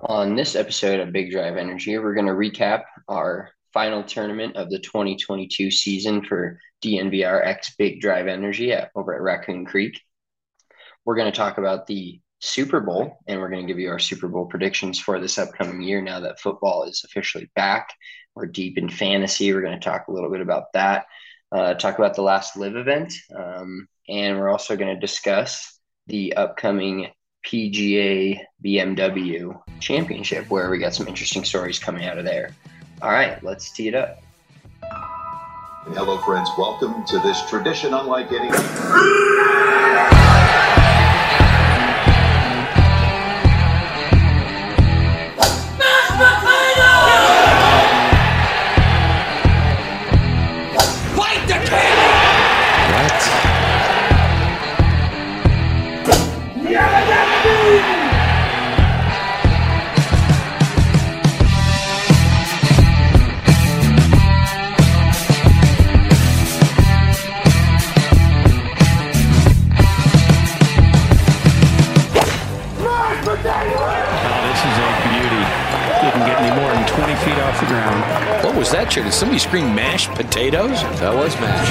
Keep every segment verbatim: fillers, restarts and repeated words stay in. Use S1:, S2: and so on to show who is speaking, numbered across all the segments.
S1: On this episode of Big Drive Energy, we're going to recap our final tournament of the twenty twenty-two season for D N V R X Big Drive Energy at, over at Raccoon Creek. We're going to talk about the Super Bowl, and we're going to give you our Super Bowl predictions for this upcoming year now that football is officially back. We're deep in fantasy. We're going to talk a little bit about that, uh, talk about the last live event, um, and we're also going to discuss the upcoming P G A B M W Championship, where we got some interesting stories coming out of there. All right, let's tee it up.
S2: Hello, friends. Welcome to this tradition unlike any.
S3: What was that, Did somebody scream mashed potatoes?
S4: That was mashed.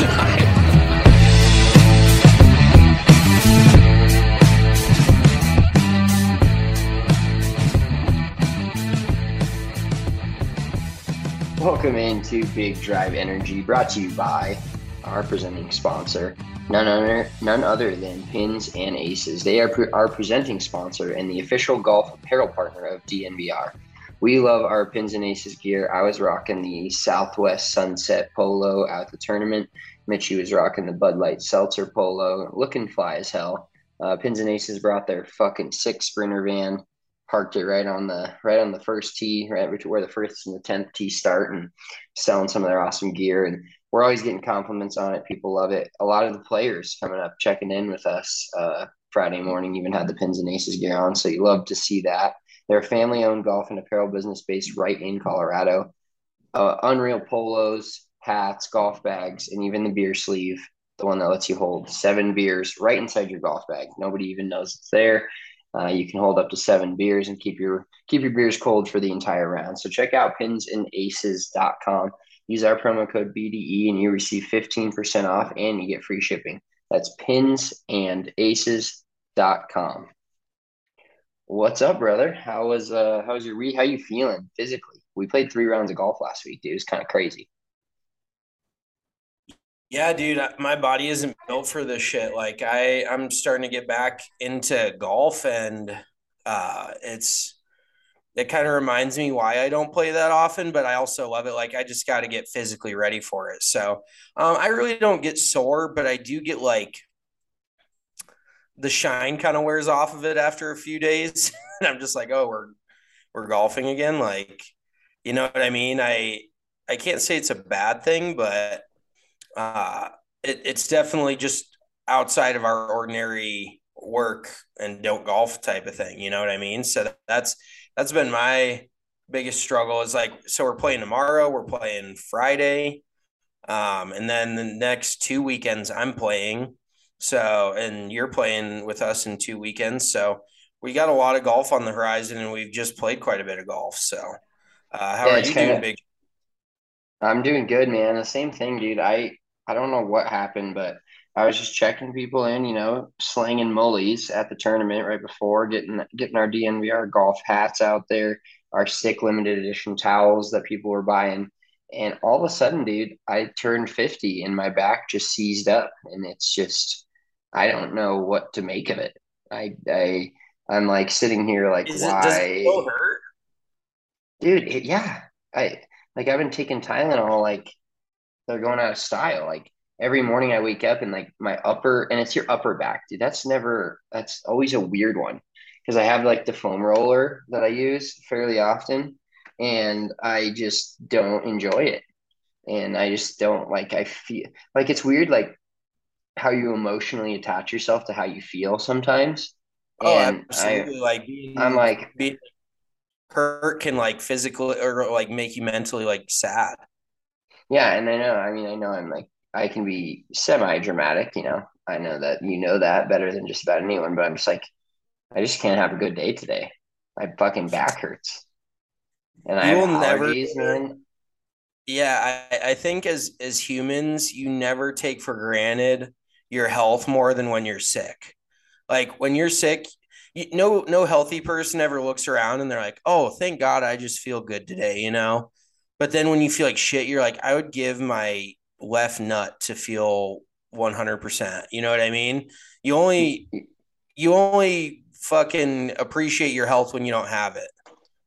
S1: Welcome into Big Drive Energy, brought to you by our presenting sponsor, none other, none other than Pins and Aces. They are pre- our presenting sponsor and the official golf apparel partner of D N V R. We love our Pins and Aces gear. I was rocking the Southwest Sunset Polo out the tournament. Mitchie was rocking the Bud Light Seltzer Polo, looking fly as hell. Uh, Pins and Aces brought their fucking six Sprinter van, parked it right on the right on the first tee, right where the first and the tenth tee start, and selling some of their awesome gear. And we're always getting compliments on it. People love it. A lot of the players coming up, checking in with us uh, Friday morning, even had the Pins and Aces gear on. So you love to see that. They're a family-owned golf and apparel business based right in Colorado. Uh, unreal polos, hats, golf bags, and even the beer sleeve, the one that lets you hold seven beers right inside your golf bag. Nobody even knows it's there. Uh, you can hold up to seven beers and keep your keep your beers cold for the entire round. So check out pins and aces dot com. Use our promo code B D E and you receive fifteen percent off and you get free shipping. That's pins and aces dot com. What's up, brother? How was uh how was your re how you feeling physically? We played three rounds of golf last week, dude. It was kind of crazy.
S5: Yeah, dude, my body isn't built for this shit. Like I I'm starting to get back into golf and uh it's it kind of reminds me why I don't play that often, but I also love it. Like I just got to get physically ready for it. So, um I really don't get sore, but I do get like the shine kind of wears off of it after a few days. And I'm just like, oh, we're we're golfing again. Like, you know what I mean? I I can't say it's a bad thing, but uh it, it's definitely just outside of our ordinary work and don't golf type of thing. You know what I mean? So that's that's been my biggest struggle is like, so we're playing tomorrow, we're playing Friday. Um, and then the next two weekends I'm playing. So, and you're playing with us in two weekends. So we got a lot of golf on the horizon and we've just played quite a bit of golf. So, uh, how
S1: Yeah,
S5: are
S1: it's
S5: you
S1: kind
S5: doing,
S1: of
S5: Big?
S1: I'm doing good, man. The same thing, dude. I I don't know what happened, but I was just checking people in, you know, slanging mullies at the tournament right before, getting getting our D N V R golf hats out there, our sick limited edition towels that people were buying. And all of a sudden, dude, I turned fifty and my back just seized up and it's just I don't know what to make of it. I I I'm like sitting here like,
S5: Is it, does it still
S1: why?
S5: hurt?
S1: Dude, it, yeah. I like I've been taking Tylenol like they're going out of style. Like every morning I wake up and like my upper and it's your upper back, dude. That's never that's always a weird one because I have like the foam roller that I use fairly often and I just don't enjoy it. And I just don't like I feel like it's weird like how you emotionally attach yourself to how you feel sometimes.
S5: Oh,
S1: And I
S5: absolutely. Like
S1: I'm
S5: being,
S1: like,
S5: being hurt can like physically or like make you mentally like sad.
S1: yeah, and I know, I mean, I know I'm like I can be semi dramatic, you know. I know that you know that better than just about anyone, but I'm just like I just can't have a good day today. My fucking back hurts, and I
S5: You
S1: have
S5: will never.
S1: allergies, man.
S5: Yeah, I, I think as as humans, you never take for granted your health more than when you're sick. Like when you're sick, you, no no healthy person ever looks around and they're like, "Oh, thank God, I just feel good today," you know. But then when you feel like shit, you're like, "I would give my left nut to feel one hundred percent." You know what I mean? You only you only fucking appreciate your health when you don't have it.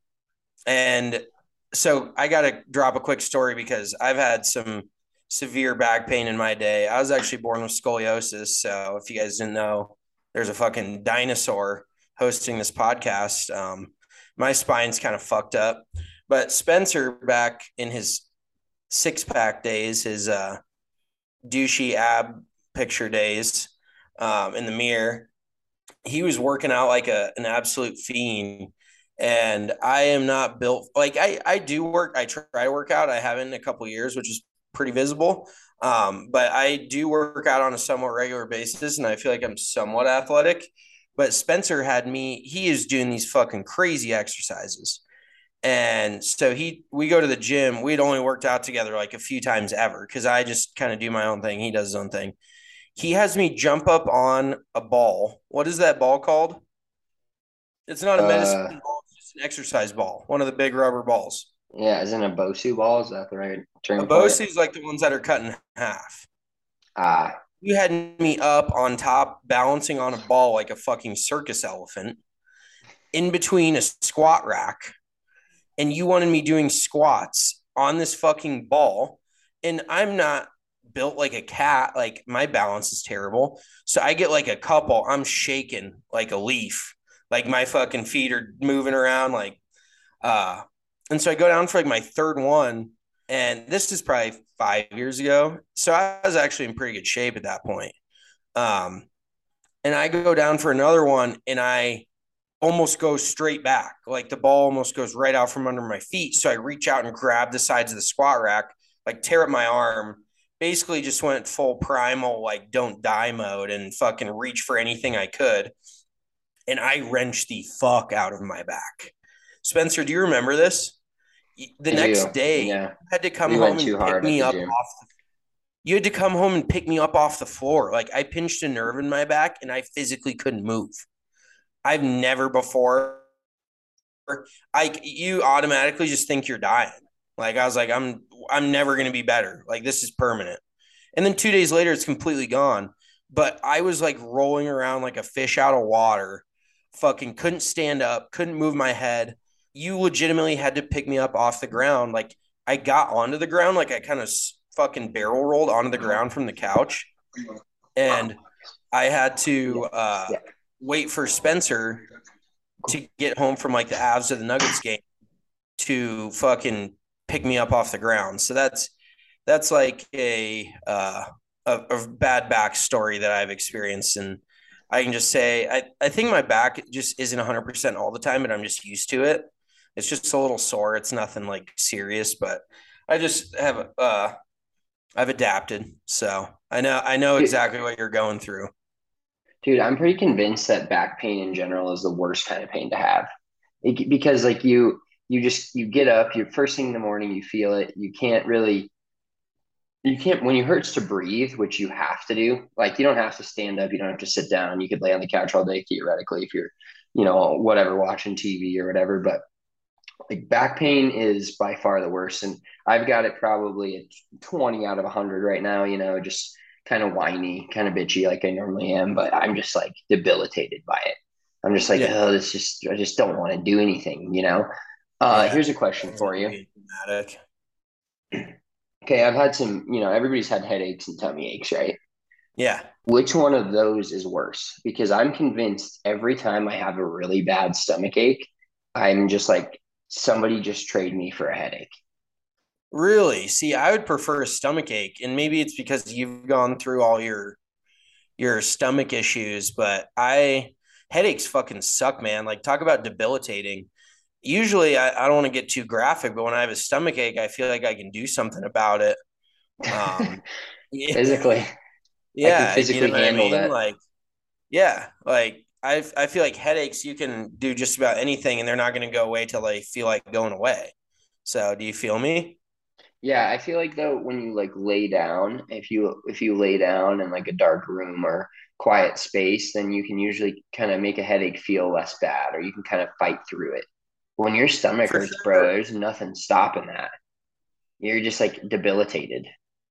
S5: And so I got to drop a quick story because I've had some severe back pain in my day. I was actually born with scoliosis. So if you guys didn't know, there's a fucking dinosaur hosting this podcast. Um, my spine's kind of fucked up. But Spencer, back in his six pack days, his uh, douchey ab picture days um, in the mirror, he was working out like a an absolute fiend. And I am not built like I I do work. I try to work out. I haven't in a couple of years, which is pretty visible. Um, but I do work out on a somewhat regular basis, and I feel like I'm somewhat athletic. But Spencer had me. He is doing these fucking crazy exercises, and so he we go to the gym. We'd only worked out together like a few times ever because I just kind of do my own thing. He does his own thing. He has me jump up on a ball. What is that ball called? It's not a medicine
S1: Uh,
S5: ball, it's just an exercise ball, one of the big rubber balls.
S1: yeah, isn't a Bosu ball? Is that the right
S5: A
S1: term for it?
S5: Bose is like the ones that are cut in half.
S1: Ah,
S5: You had me up on top, balancing on a ball like a fucking circus elephant in between a squat rack, and you wanted me doing squats on this fucking ball. And I'm not built like a cat. Like my balance is terrible. So I get like a couple, I'm shaking like a leaf. Like my fucking feet are moving around like uh and so I go down for like my third one. And this is probably five years ago. So I was actually in pretty good shape at that point. Um, and I go down for another one and I almost go straight back. Like the ball almost goes right out from under my feet. So I reach out and grab the sides of the squat rack, like tear up my arm, basically just went full primal, like don't die mode and fucking reach for anything I could. And I wrenched the fuck out of my back. Spencer, do you remember this? The
S1: I
S5: next
S1: do.
S5: day, you
S1: Yeah,
S5: had to come
S1: we
S5: home
S1: went
S5: and
S1: too
S5: pick
S1: hard at
S5: me
S1: the
S5: up
S1: gym.
S5: off the you had to come home and pick me up off the floor. Like I pinched a nerve in my back and I physically couldn't move. I've never before I you automatically just think you're dying. Like I was like, I'm I'm never gonna be better. Like this is permanent. And then two days later, it's completely gone. But I was like rolling around like a fish out of water, fucking couldn't stand up, couldn't move my head. You legitimately had to pick me up off the ground. Like I got onto the ground, like I kind of fucking barrel rolled onto the ground from the couch. And I had to uh,
S1: Yeah.
S5: wait for Spencer to get home from like the Avs to the Nuggets game to fucking pick me up off the ground. So that's that's like a uh, a, a bad back story that I've experienced, and I can just say I I think my back just isn't one hundred percent all the time, but I'm just used to it. It's just a little sore. It's nothing like serious, but I just have uh I've adapted. So I know I know
S1: Dude,
S5: exactly what you're going through.
S1: dude, I'm pretty convinced that back pain in general is the worst kind of pain to have. It, because like you, you just you get up, you first thing in the morning, you feel it. You can't really, you can't when you hurts to breathe, which you have to do. Like you don't have to stand up, you don't have to sit down. You could lay on the couch all day theoretically if you're, you know, whatever watching T V or whatever. But like back pain is by far the worst, and I've got it probably at twenty out of one hundred right now. You know, just kind of whiny, kind of bitchy like I normally am, but I'm just like debilitated by it. I'm just like,
S5: Yeah,
S1: oh, this just I just don't want to do anything. You know. Uh,
S5: yeah.
S1: here's a question
S5: It's
S1: for
S5: not
S1: you.
S5: being dramatic.
S1: Okay, I've had some. You know, everybody's had headaches and tummy aches, right?
S5: Yeah.
S1: Which one of those is worse? Because I'm convinced every time I have a really bad stomach ache, I'm just like, somebody just trade me for a headache.
S5: Really? See, I would prefer a stomach ache, and maybe it's because you've gone through all your your stomach issues, but I headaches fucking suck, man. Like talk about debilitating. Usually I, I don't want to get too graphic, but when I have a stomach ache, I feel like I can do something about it. Um yeah,
S1: Physically, I can
S5: yeah, you know
S1: physically
S5: what I
S1: handle
S5: mean?
S1: that.
S5: Like, yeah, like I I feel like headaches you can do just about anything and they're not going to go away till they feel like going away. So, do you feel me?
S1: Yeah, I feel like though when you like lay down, if you if you lay down in like a dark room or quiet space, then you can usually kind of make a headache feel less bad, or you can kind of fight through it. When your stomach
S5: For
S1: hurts, bro,
S5: sure.
S1: there's nothing stopping that. You're just like debilitated.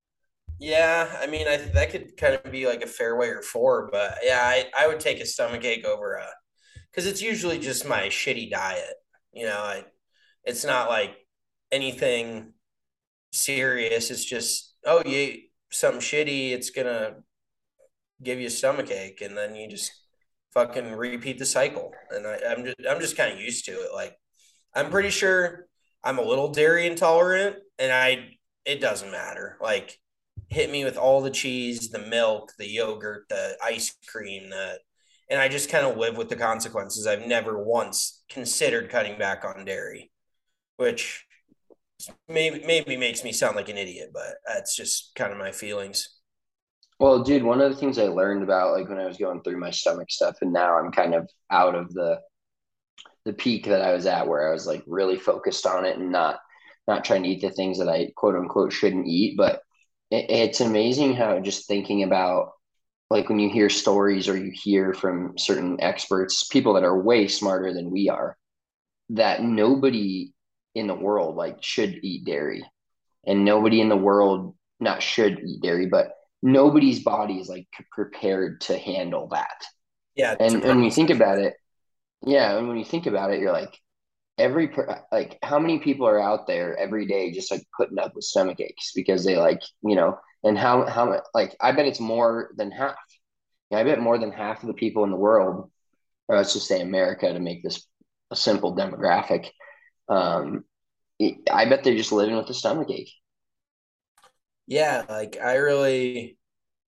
S5: Yeah, I mean, I that could kind of be like a fair way or four, but yeah, I I would take a stomach ache over a because it's usually just my shitty diet. You know, I it's not like anything serious. It's just, oh, you ate something shitty, it's gonna give you a stomach ache, and then you just fucking repeat the cycle. And I, I'm just I'm just kind of used to it. Like I'm pretty sure I'm a little dairy intolerant, and I it doesn't matter. Like hit me with all the cheese, the milk, the yogurt, the ice cream, the and I just kind of live with the consequences. I've never once considered cutting back on dairy, which maybe maybe makes me sound like an idiot, but that's just kind of my feelings.
S1: Well, dude, one of the things I learned about like when I was going through my stomach stuff, and now I'm kind of out of the the peak that I was at where I was like really focused on it and not not trying to eat the things that I quote unquote shouldn't eat. But it, it's amazing how just thinking about like when you hear stories or you hear from certain experts, people that are way smarter than we are, that nobody in the world like should eat dairy, and nobody in the world not should eat dairy, but nobody's body is like prepared to handle that.
S5: Yeah, to
S1: And when you think
S5: process
S1: about
S5: it.
S1: it, yeah, and when you think about it, you're like every per- like how many people are out there every day just like putting up with stomach aches because they like you know, and how how like I bet it's more than half. Yeah, I bet more than half of the people in the world, or let's just say America to make this a simple demographic, um, I bet they're just living with a stomach ache.
S5: Yeah, like I really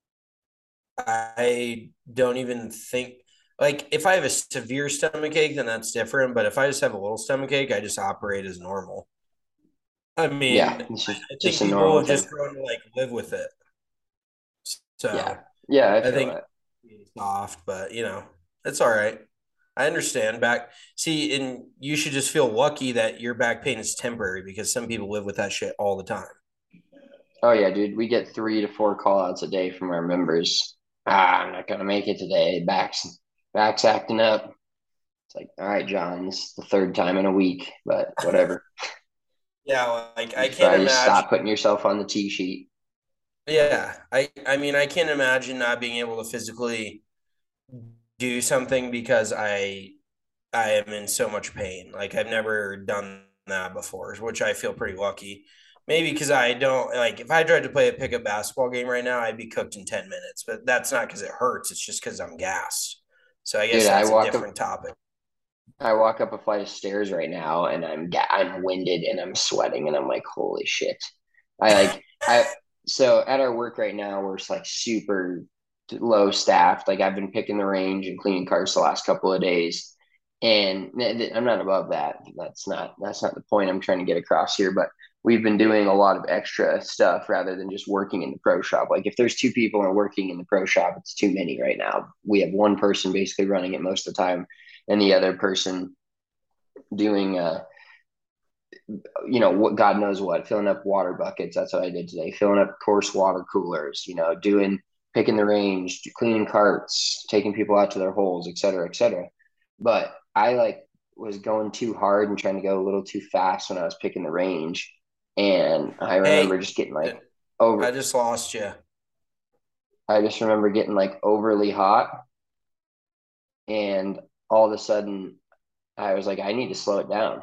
S5: I don't even think like if I have a severe stomach ache, then that's different. But if I just have a little stomach ache, I just operate as normal. I
S1: Yeah,
S5: mean,
S1: it's just
S5: I
S1: just
S5: think
S1: a
S5: people
S1: normal
S5: have
S1: thing.
S5: just grown to like live with it.
S1: Yeah,
S5: So
S1: yeah, I
S5: I
S1: feel
S5: think
S1: that.
S5: it's soft, but you know, it's all right. I understand back. See, and you should just feel lucky that your back pain is temporary because some people live with that shit all the time.
S1: Oh yeah, dude, we get three to four call outs a day from our members. Ah, I'm not gonna make it today. Back's back's acting up. It's like, all right, John, this is the third time in a week, but whatever.
S5: Yeah, like I
S1: You
S5: can't
S1: probably just
S5: imagine.
S1: stop putting yourself on the T sheet.
S5: Yeah, I I mean I can't imagine not being able to physically do something because I I am in so much pain. Like I've never done that before, which I feel pretty lucky. Maybe because I don't like if I tried to play a pickup basketball game right now, I'd be cooked in ten minutes. But that's not because it hurts. It's just because I'm gassed. So I
S1: Dude,
S5: guess
S1: I
S5: that's a
S1: walk up
S5: different topic.
S1: I walk up a flight of stairs right now and I'm ga- I'm winded and I'm sweating and I'm like, holy shit. I like I so at our work right now we're just like super low staffed. Like I've been picking the range and cleaning carts the last couple of days. And th- th- I'm not above that. That's not that's not the point I'm trying to get across here, but we've been doing a lot of extra stuff rather than just working in the pro shop. Like if there's two people and working in the pro shop, it's too many right now. We have one person basically running it most of the time and the other person doing uh you know what, god knows what, filling up water buckets. That's what I did today, filling up course water coolers, you know, doing picking the range, cleaning carts, taking people out to their holes, et cetera, et cetera. But I like was going too hard and trying to go a little too fast when I was picking the range, and I remember
S5: Hey,
S1: just getting like over
S5: I just lost you.
S1: I just remember getting like overly hot, and all of a sudden I was like, I need to slow it down.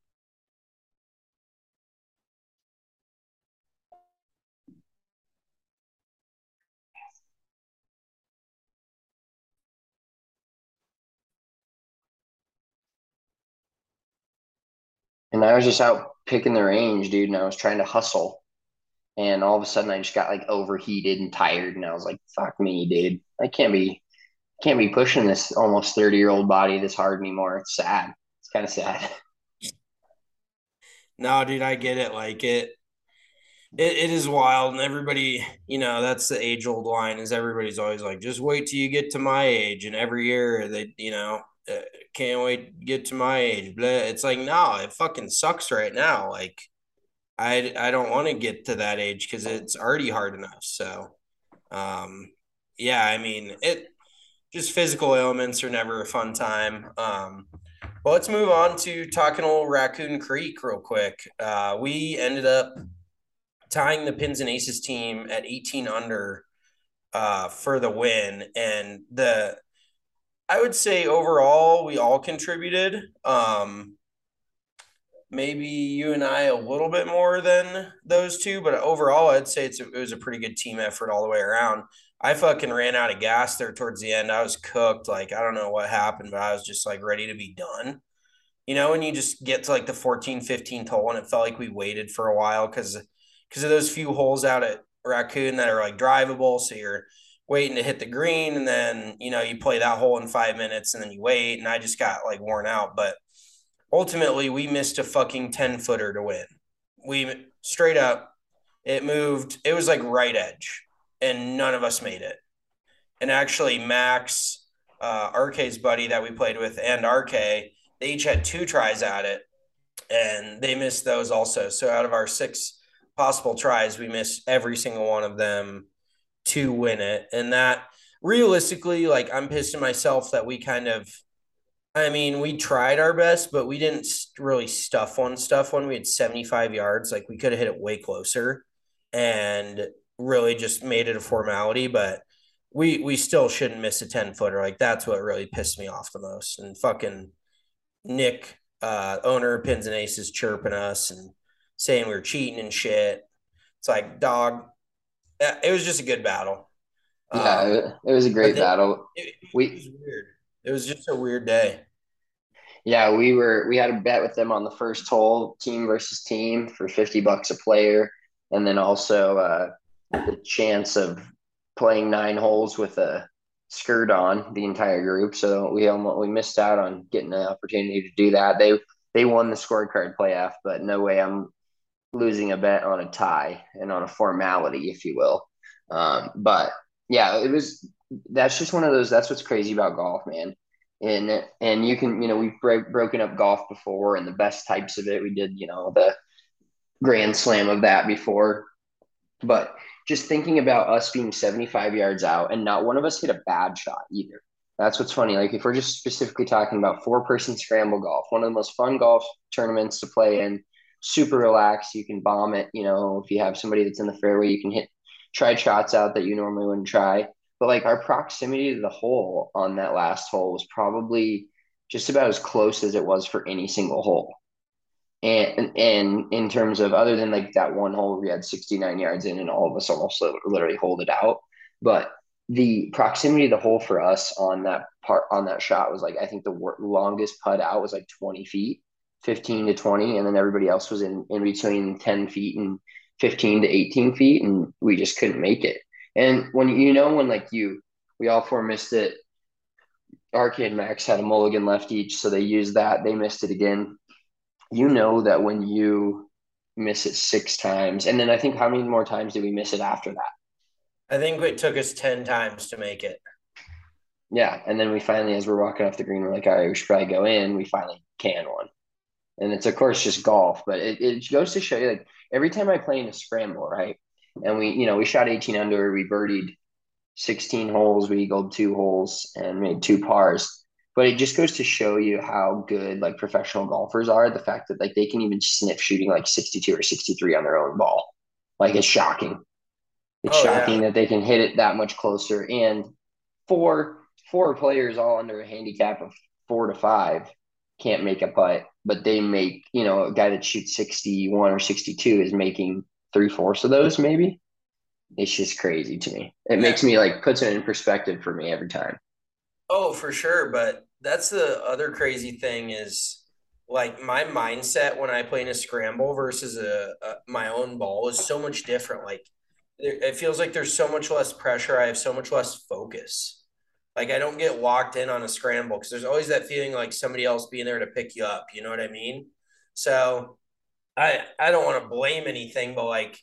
S1: And I was just out picking the range, dude, and I was trying to hustle. And all of a sudden I just got like overheated and tired. And I was like, fuck me, dude. I can't be can't be pushing this almost thirty year old body this hard anymore. It's sad. It's kind of sad.
S5: No, dude, I get it. Like it. It, it is wild, and everybody, you know, that's the age old line is everybody's always like, just wait till you get to my age. And every year they, you know, uh, can't wait to get to my age. Blah. It's like, no, it fucking sucks right now. Like, I, I don't want to get to that age because it's already hard enough. So, um, yeah, I mean, it just physical ailments are never a fun time. Um, well, let's move on to talking a little Raccoon Creek real quick. Uh, we ended up tying the Pins and Aces team at eighteen under uh, for the win. And the I would say overall we all contributed. Um, maybe you and I a little bit more than those two, but overall I'd say it's a, it was a pretty good team effort all the way around. I fucking ran out of gas there towards the end. I was cooked. Like I don't know what happened, but I was just like ready to be done. You know, when you just get to like the fourteen, fifteen hole and it felt like we waited for a while because because of those few holes out at Raccoon that are like drivable. So you're waiting to hit the green and then, you know, you play that hole in five minutes and then you wait. And I just got like worn out. But ultimately, we missed a fucking ten footer to win. We straight up, it moved, it was like right edge and none of us made it. And actually, Max, uh, R K's buddy that we played with, and R K, they each had two tries at it and they missed those also. So out of our six possible tries, we missed every single one of them to win it. And that realistically, like I'm pissed at myself that we kind of, I mean, we tried our best, but we didn't really stuff one stuff when we had seventy-five yards. Like we could have hit it way closer and really just made it a formality, but we we still shouldn't miss a ten footer. Like that's what really pissed me off the most. And fucking Nick, uh, owner of Pins and Aces, chirping us and saying we were cheating and shit. It's like, dog, it was just a good battle.
S1: Yeah,
S5: Um,
S1: it, it was a
S5: but
S1: great
S5: then
S1: battle.
S5: it, it
S1: We
S5: was weird. It was just a weird day.
S1: Yeah, we were we had a bet with them on the first hole, team versus team for fifty bucks a player, and then also uh, the chance of playing nine holes with a skirt on the entire group. So we almost we missed out on getting the opportunity to do that. They they won the scorecard playoff, but no way I'm losing a bet on a tie and on a formality, if you will. Um, but yeah, it was that's just one of those. That's what's crazy about golf, man. And and you can you know we've break, broken up golf before and the best types of it. We did you know the grand slam of that before, but just thinking about us being seventy-five yards out and not one of us hit a bad shot either. That's what's funny. Like if we're just specifically talking about four person scramble golf, one of the most fun golf tournaments to play in, super relaxed. You can bomb it. You know, if you have somebody that's in the fairway, you can hit, try shots out that you normally wouldn't try. But like our proximity to the hole on that last hole was probably just about as close as it was for any single hole. And and in terms of other than like that one hole we had sixty-nine yards in and all of us almost literally hold it out, but the proximity of the hole for us on that part on that shot was like I think the longest putt out was like twenty feet, fifteen to twenty, and then everybody else was in in between ten feet and fifteen to eighteen feet, and we just couldn't make it. And when you know when like you we all four missed it. Arcade Max had a mulligan left each, so they used that. They missed it again. You know that when you miss it six times, and then I think how many more times did we miss it after that?
S5: I think it took us ten times to make it.
S1: Yeah, and then we finally, as we're walking off the green, we're like, all right, we should probably go in. We finally can one, and it's of course just golf, but it, it goes to show you like every time I play in a scramble, right? And we, you know, we shot eighteen under, we birdied sixteen holes, we eagled two holes, and made two pars. But it just goes to show you how good like professional golfers are. The fact that like they can even sniff shooting like sixty-two or sixty-three on their own ball. Like it's shocking. It's
S5: Oh
S1: shocking
S5: yeah.
S1: that they can hit it that much closer. And four four players all under a handicap of four to five can't make a putt, but they make, you know, a guy that shoots sixty-one or sixty-two is making three fourths of those maybe. It's just crazy to me. It
S5: Yeah.
S1: makes me like puts it in perspective for me every time.
S5: Oh, for sure. But that's the other crazy thing is like my mindset when I play in a scramble versus a, a my own ball is so much different. Like there, it feels like there's so much less pressure. I have so much less focus. Like I don't get locked in on a scramble because there's always that feeling like somebody else being there to pick you up. You know what I mean? So I I don't want to blame anything, but like,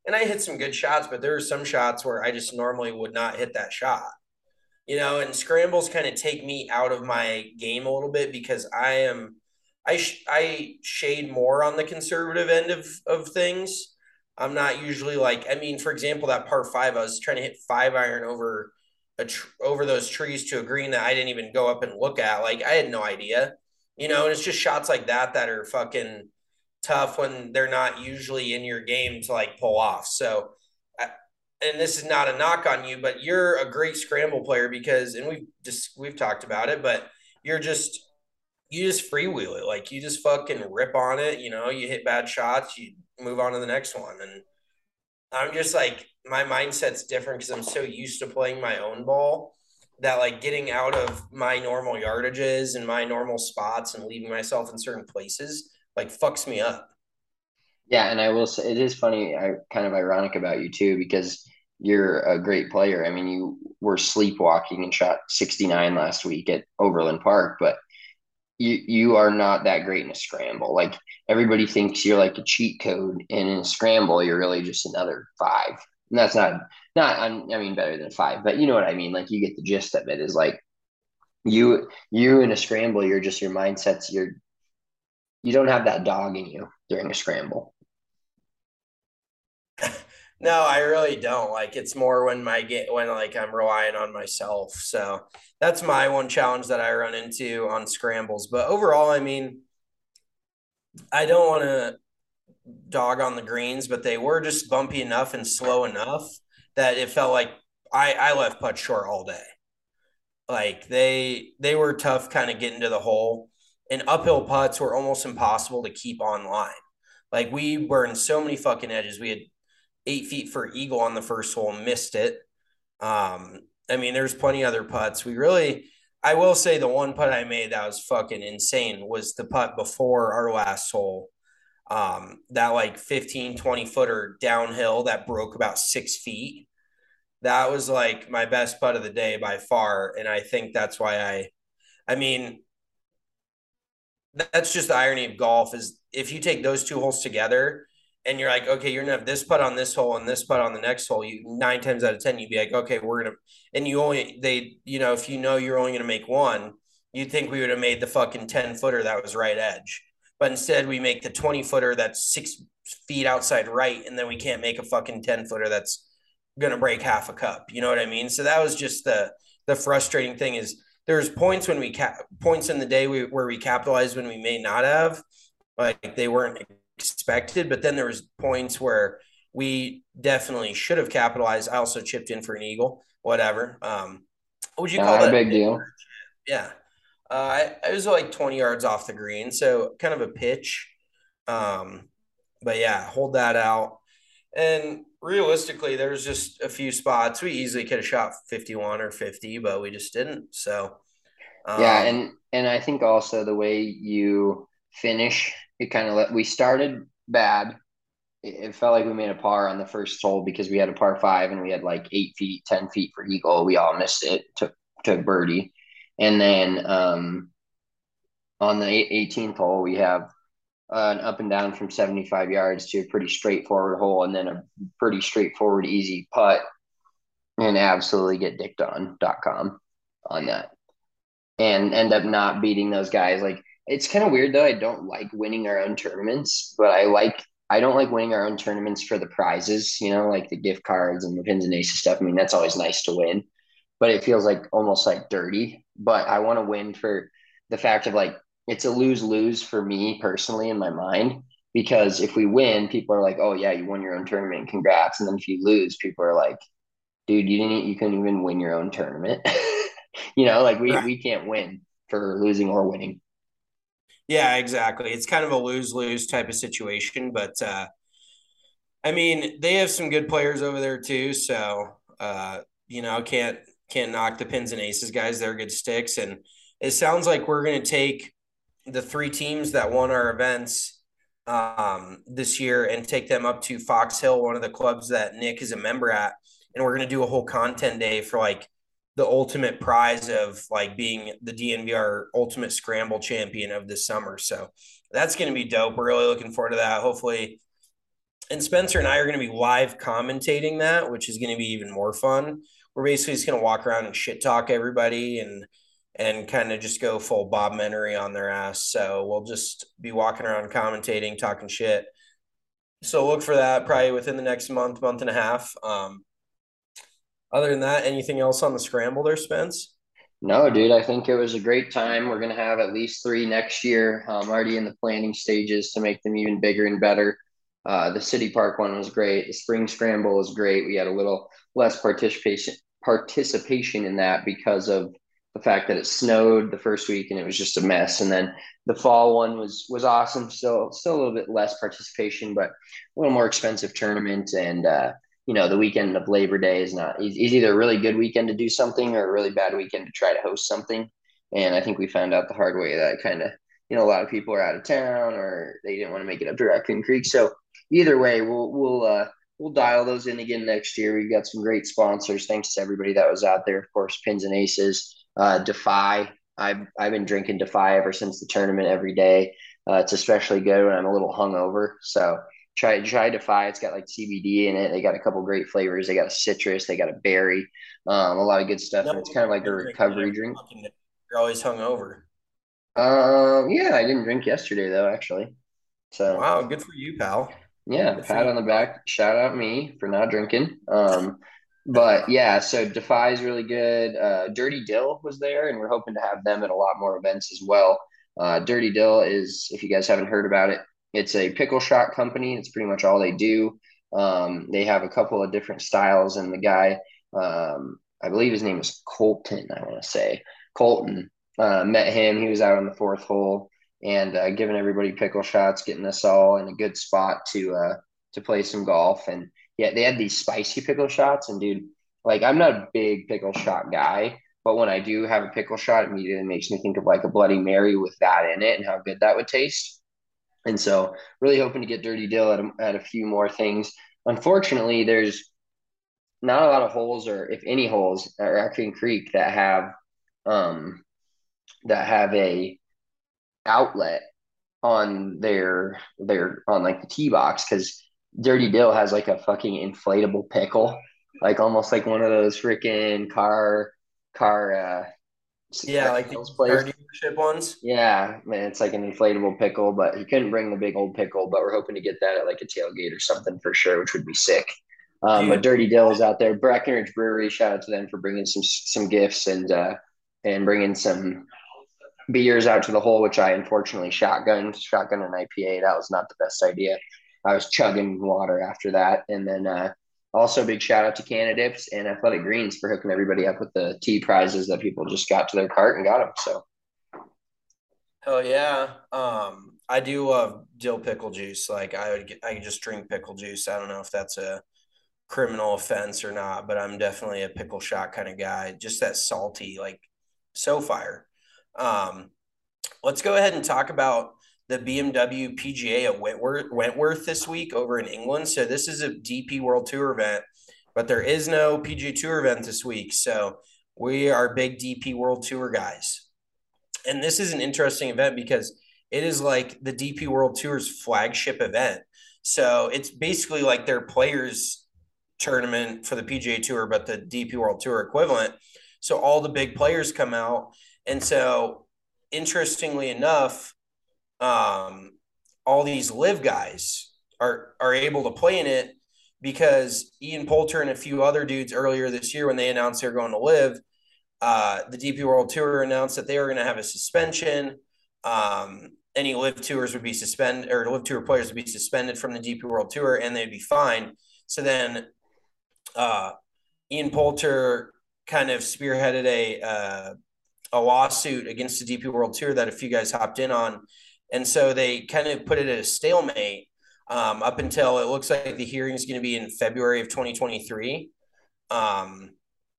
S5: and I hit some good shots, but there were some shots where I just normally would not hit that shot. You know, and scrambles kind of take me out of my game a little bit because I am I sh- I shade more on the conservative end of of things. I'm not usually like, I mean, for example, that par five, I was trying to hit five iron over a tr- over those trees to a green that I didn't even go up and look at. Like I had no idea, you know. And it's just shots like that that are fucking tough when they're not usually in your game to like pull off. So and this is not a knock on you, but you're a great scramble player because, and we've just we've talked about it, but you're just you just freewheel it, like you just fucking rip on it. You know, you hit bad shots, you move on to the next one, and I'm just like my mindset's different because I'm so used to playing my own ball that like getting out of my normal yardages and my normal spots and leaving myself in certain places like fucks me up.
S1: Yeah, and I will say it is funny, I kind of ironic about you too, because you're a great player. I mean, you were sleepwalking and shot sixty-nine last week at Overland Park, but you you are not that great in a scramble. Like everybody thinks you're like a cheat code, and in a scramble, you're really just another five. And that's not not I mean better than five, but you know what I mean. Like you get the gist of it. Is like you you in a scramble, you're just your mindset's you're you don't have that dog in you during a scramble.
S5: No, I really don't. Like it's more when my get when like I'm relying on myself. So that's my one challenge that I run into on scrambles. But overall, I mean, I don't want to dog on the greens, but they were just bumpy enough and slow enough that it felt like I I left putt short all day. Like they they were tough kind of getting to the hole, and uphill putts were almost impossible to keep on line. Like we burned so many fucking edges. We had eight feet for eagle on the first hole, missed it. Um, I mean, there's plenty of other putts. We really, I will say the one putt I made that was fucking insane was the putt before our last hole. Um, that like fifteen, twenty footer downhill that broke about six feet. That was like my best putt of the day by far. And I think that's why I, I mean, that's just the irony of golf is if you take those two holes together and you're like, okay, you're gonna have this putt on this hole and this putt on the next hole, you nine times out of ten, you'd be like, okay, we're gonna and you only they, you know, if you know you're only gonna make one, you'd think we would have made the fucking ten footer that was right edge. But instead we make the twenty footer that's six feet outside right, and then we can't make a fucking ten footer that's gonna break half a cup. You know what I mean? So that was just the the frustrating thing is there's points when we cap points in the day we, where we capitalized when we may not have, like they weren't expected, but then there was points where we definitely should have capitalized. I also chipped in for an eagle, whatever. Um, what would you call
S1: Not a
S5: that?
S1: big deal.
S5: Yeah. Uh, I, I was like twenty yards off the green, so kind of a pitch. Um, but yeah, hold that out. And realistically, there's just a few spots we easily could have shot fifty-one or fifty, but we just didn't. So,
S1: Yeah,
S5: um,
S1: and and I think also the way you finish, it kind of let we started bad. It, it felt like we made a par on the first hole because we had a par five and we had like eight feet, ten feet for eagle. We all missed it, took took birdie, and then um, on the eighteenth hole we have uh, an up and down from seventy-five yards to a pretty straightforward hole, and then a pretty straightforward easy putt, and absolutely get dicked on dot com on that and end up not beating those guys. Like it's kind of weird though. I don't like winning our own tournaments, but I like I don't like winning our own tournaments for the prizes, you know, like the gift cards and the pins and aces stuff. I mean, that's always nice to win, but it feels like almost like dirty. But I want to win for the fact of like it's a lose lose for me personally in my mind. Because if we win, people are like, "Oh yeah, you won your own tournament, congrats!" And then if you lose, people are like, "Dude, you didn't, you couldn't even win your own tournament." You know, like we we can't win for losing or winning.
S5: yeah, exactly. It's kind of a lose lose type of situation, but uh, I mean, they have some good players over there too. So, uh, you know, can't can't knock the pins and aces guys. They're good sticks, and it sounds like we're going to take the three teams that won our events um, this year and take them up to Fox Hill, one of the clubs that Nick is a member at, and we're going to do a whole content day for like the ultimate prize of like being the D N V R Ultimate Scramble Champion of the summer. So that's going to be dope. We're really looking forward to that. Hopefully And Spencer and I are going to be live commentating that, which is going to be even more fun. We're basically just going to walk around and shit talk everybody and and kind of just go full Bob Menery on their ass. So we'll just be walking around commentating, talking shit. So look for that probably within the next month, month and a half. Um, other than that, anything else on the scramble there, Spence?
S1: No, dude, I think it was a great time. We're going to have at least three next year. I'm already in the planning stages to make them even bigger and better. Uh, the City Park one was great. The Spring Scramble was great. We had a little less participation participation in that because of the fact that it snowed the first week and it was just a mess. And then the fall one was was awesome. Still, still a little bit less participation, but a little more expensive tournament. And uh, you know, the weekend of Labor Day is not is either a really good weekend to do something or a really bad weekend to try to host something. And I think we found out the hard way that kind of, you know, a lot of people are out of town or they didn't want to make it up to Raccoon Creek. So either way, we'll we'll uh, we'll dial those in again next year. We've got some great sponsors. Thanks to everybody that was out there. Of course, Pins and Aces, uh, Defy. I've I've been drinking Defy ever since the tournament every day. Uh, it's especially good when I'm a little hungover. So try try Defy. It's got like C B D in it. They got a couple great flavors. They got a citrus. They got a berry. Um, a lot of good stuff.
S5: No,
S1: And it's kind of like a recovery drink.
S5: You're always hungover.
S1: Um, yeah, I didn't drink yesterday though, actually. So
S5: wow, good for you, pal.
S1: yeah,
S5: Good
S1: pat
S5: you.
S1: on the back. Shout out me for not drinking. Um, but yeah, so Defy is really good. Uh, Dirty Dill was there, and we're hoping to have them at a lot more events as well. Uh, Dirty Dill is, if you guys haven't heard about it, it's a pickle shot company. It's pretty much all they do. Um, they have a couple of different styles, and the guy, um, I believe his name is Colton. I want to say Colton. Uh, met him. He was out on the fourth hole and uh, giving everybody pickle shots, getting us all in a good spot to uh, to play some golf. And yeah, they had these spicy pickle shots. And dude, like I'm not a big pickle shot guy, but when I do have a pickle shot, it immediately makes me think of like a Bloody Mary with that in it and how good that would taste. And so, really hoping to get Dirty Dill at a, at a few more things. Unfortunately, there's not a lot of holes, or if any holes, at Raccoon Creek that have um, that have a outlet on their their on like the tee box because Dirty Dill has like a fucking inflatable pickle, like almost like one of those freaking car car uh
S5: Yeah, like the car dealership ones.
S1: Yeah, man, it's like an inflatable pickle, but he couldn't bring the big old pickle, but we're hoping to get that at like a tailgate or something for sure, which would be sick. Um, but Dirty Dill is out there. Breckenridge Brewery, shout out to them for bringing some some gifts and uh and bringing some beers out to the hole, which I unfortunately shotgunned, shotgun an I P A. That was not the best idea. I was chugging water after that. And then uh, also big shout out to Canadips and Athletic Greens for hooking everybody up with the tea prizes that people just got to their cart and got them. So.
S5: Hell yeah. Um, I do love dill pickle juice. Like I would get, I could just drink pickle juice. I don't know if that's a criminal offense or not, but I'm definitely a pickle shot kind of guy. Just that salty, like so fire. Um, let's go ahead and talk about the B M W P G A at Wentworth, Wentworth this week over in England. So this is a D P World Tour event, but there is no P G A Tour event this week. So we are big D P World Tour guys. And this is an interesting event because it is like the D P World Tour's flagship event. So it's basically like their players tournament for the P G A Tour, but the D P World Tour equivalent. So all the big players come out. And so, interestingly enough, um, all these live guys are are able to play in it because Ian Poulter and a few other dudes earlier this year, when they announced they're going to live, uh, the D P World Tour announced that they were going to have a suspension. Um, any live tours would be suspended, or live tour players would be suspended from the D P World Tour, and they'd be fined. So then, uh, Ian Poulter kind of spearheaded a uh, a lawsuit against the D P World Tour that a few guys hopped in on. And so they kind of put it at a stalemate um, up until it looks like the hearing is going to be in February of twenty twenty-three. Um,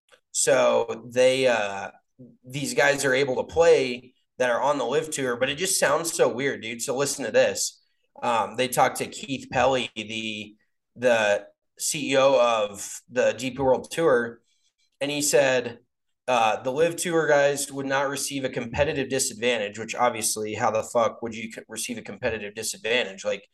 S5: so they, uh, these guys are able to play that are on the live tour, but it just sounds so weird, dude. So listen to this. Um, they talked to Keith Pelly, the, the C E O of the D P World Tour, and he said, Uh, the live tour guys would not receive a competitive disadvantage, which obviously, how the fuck would you receive a competitive disadvantage? Like,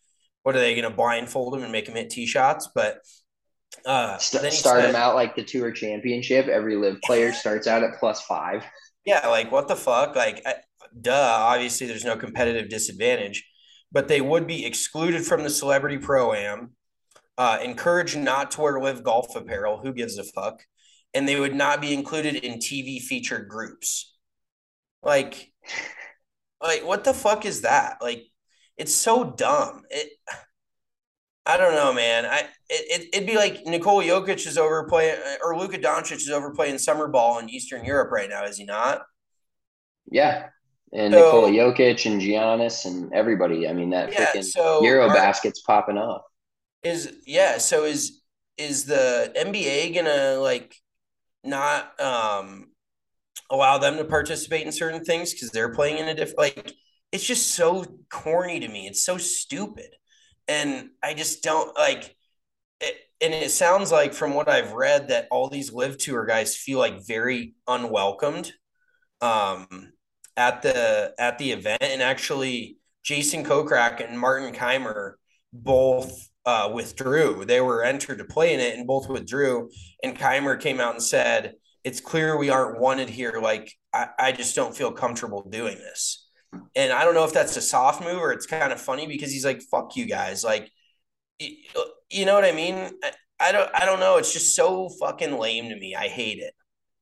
S5: what are they going to blindfold him and make him hit tee shots? But uh,
S1: St-
S5: then he
S1: start
S5: said,
S1: them out like the tour championship. Every live player starts out at plus five.
S5: yeah, like what the fuck? Like, I, duh, obviously there's no competitive disadvantage, but they would be excluded from the celebrity pro-am, uh, encouraged not to wear live golf apparel. Who gives a fuck? And they would not be included in T V featured groups. Like, like what the fuck is that? Like, it's so dumb. It, I don't know, man. I it, it'd be like Nikola Jokic is over playing, or Luka Doncic is over playing summer ball in Eastern Europe right now, is he not?
S1: Yeah. And Nikola
S5: So
S1: Jokic and Giannis and everybody. I mean, that
S5: yeah,
S1: freaking
S5: so
S1: Euro
S5: are
S1: basket's popping off.
S5: is yeah, so is is the N B A gonna like not um allow them to participate in certain things because they're playing in a different like it's just so corny to me. It's so stupid. And I just don't like it, and it sounds like from what I've read that all these live tour guys feel like very unwelcomed um, at the at the event. And actually, Jason Kokrak and Martin Keimer both uh, withdrew. They were entered to play in it, and both withdrew. And Keimer came out and said, "It's clear we aren't wanted here. Like I, I just don't feel comfortable doing this." And I don't know if that's a soft move or it's kind of funny because he's like, "Fuck you guys!" Like, you know what I mean? I, I don't. I don't know. It's just so fucking lame to me. I hate it.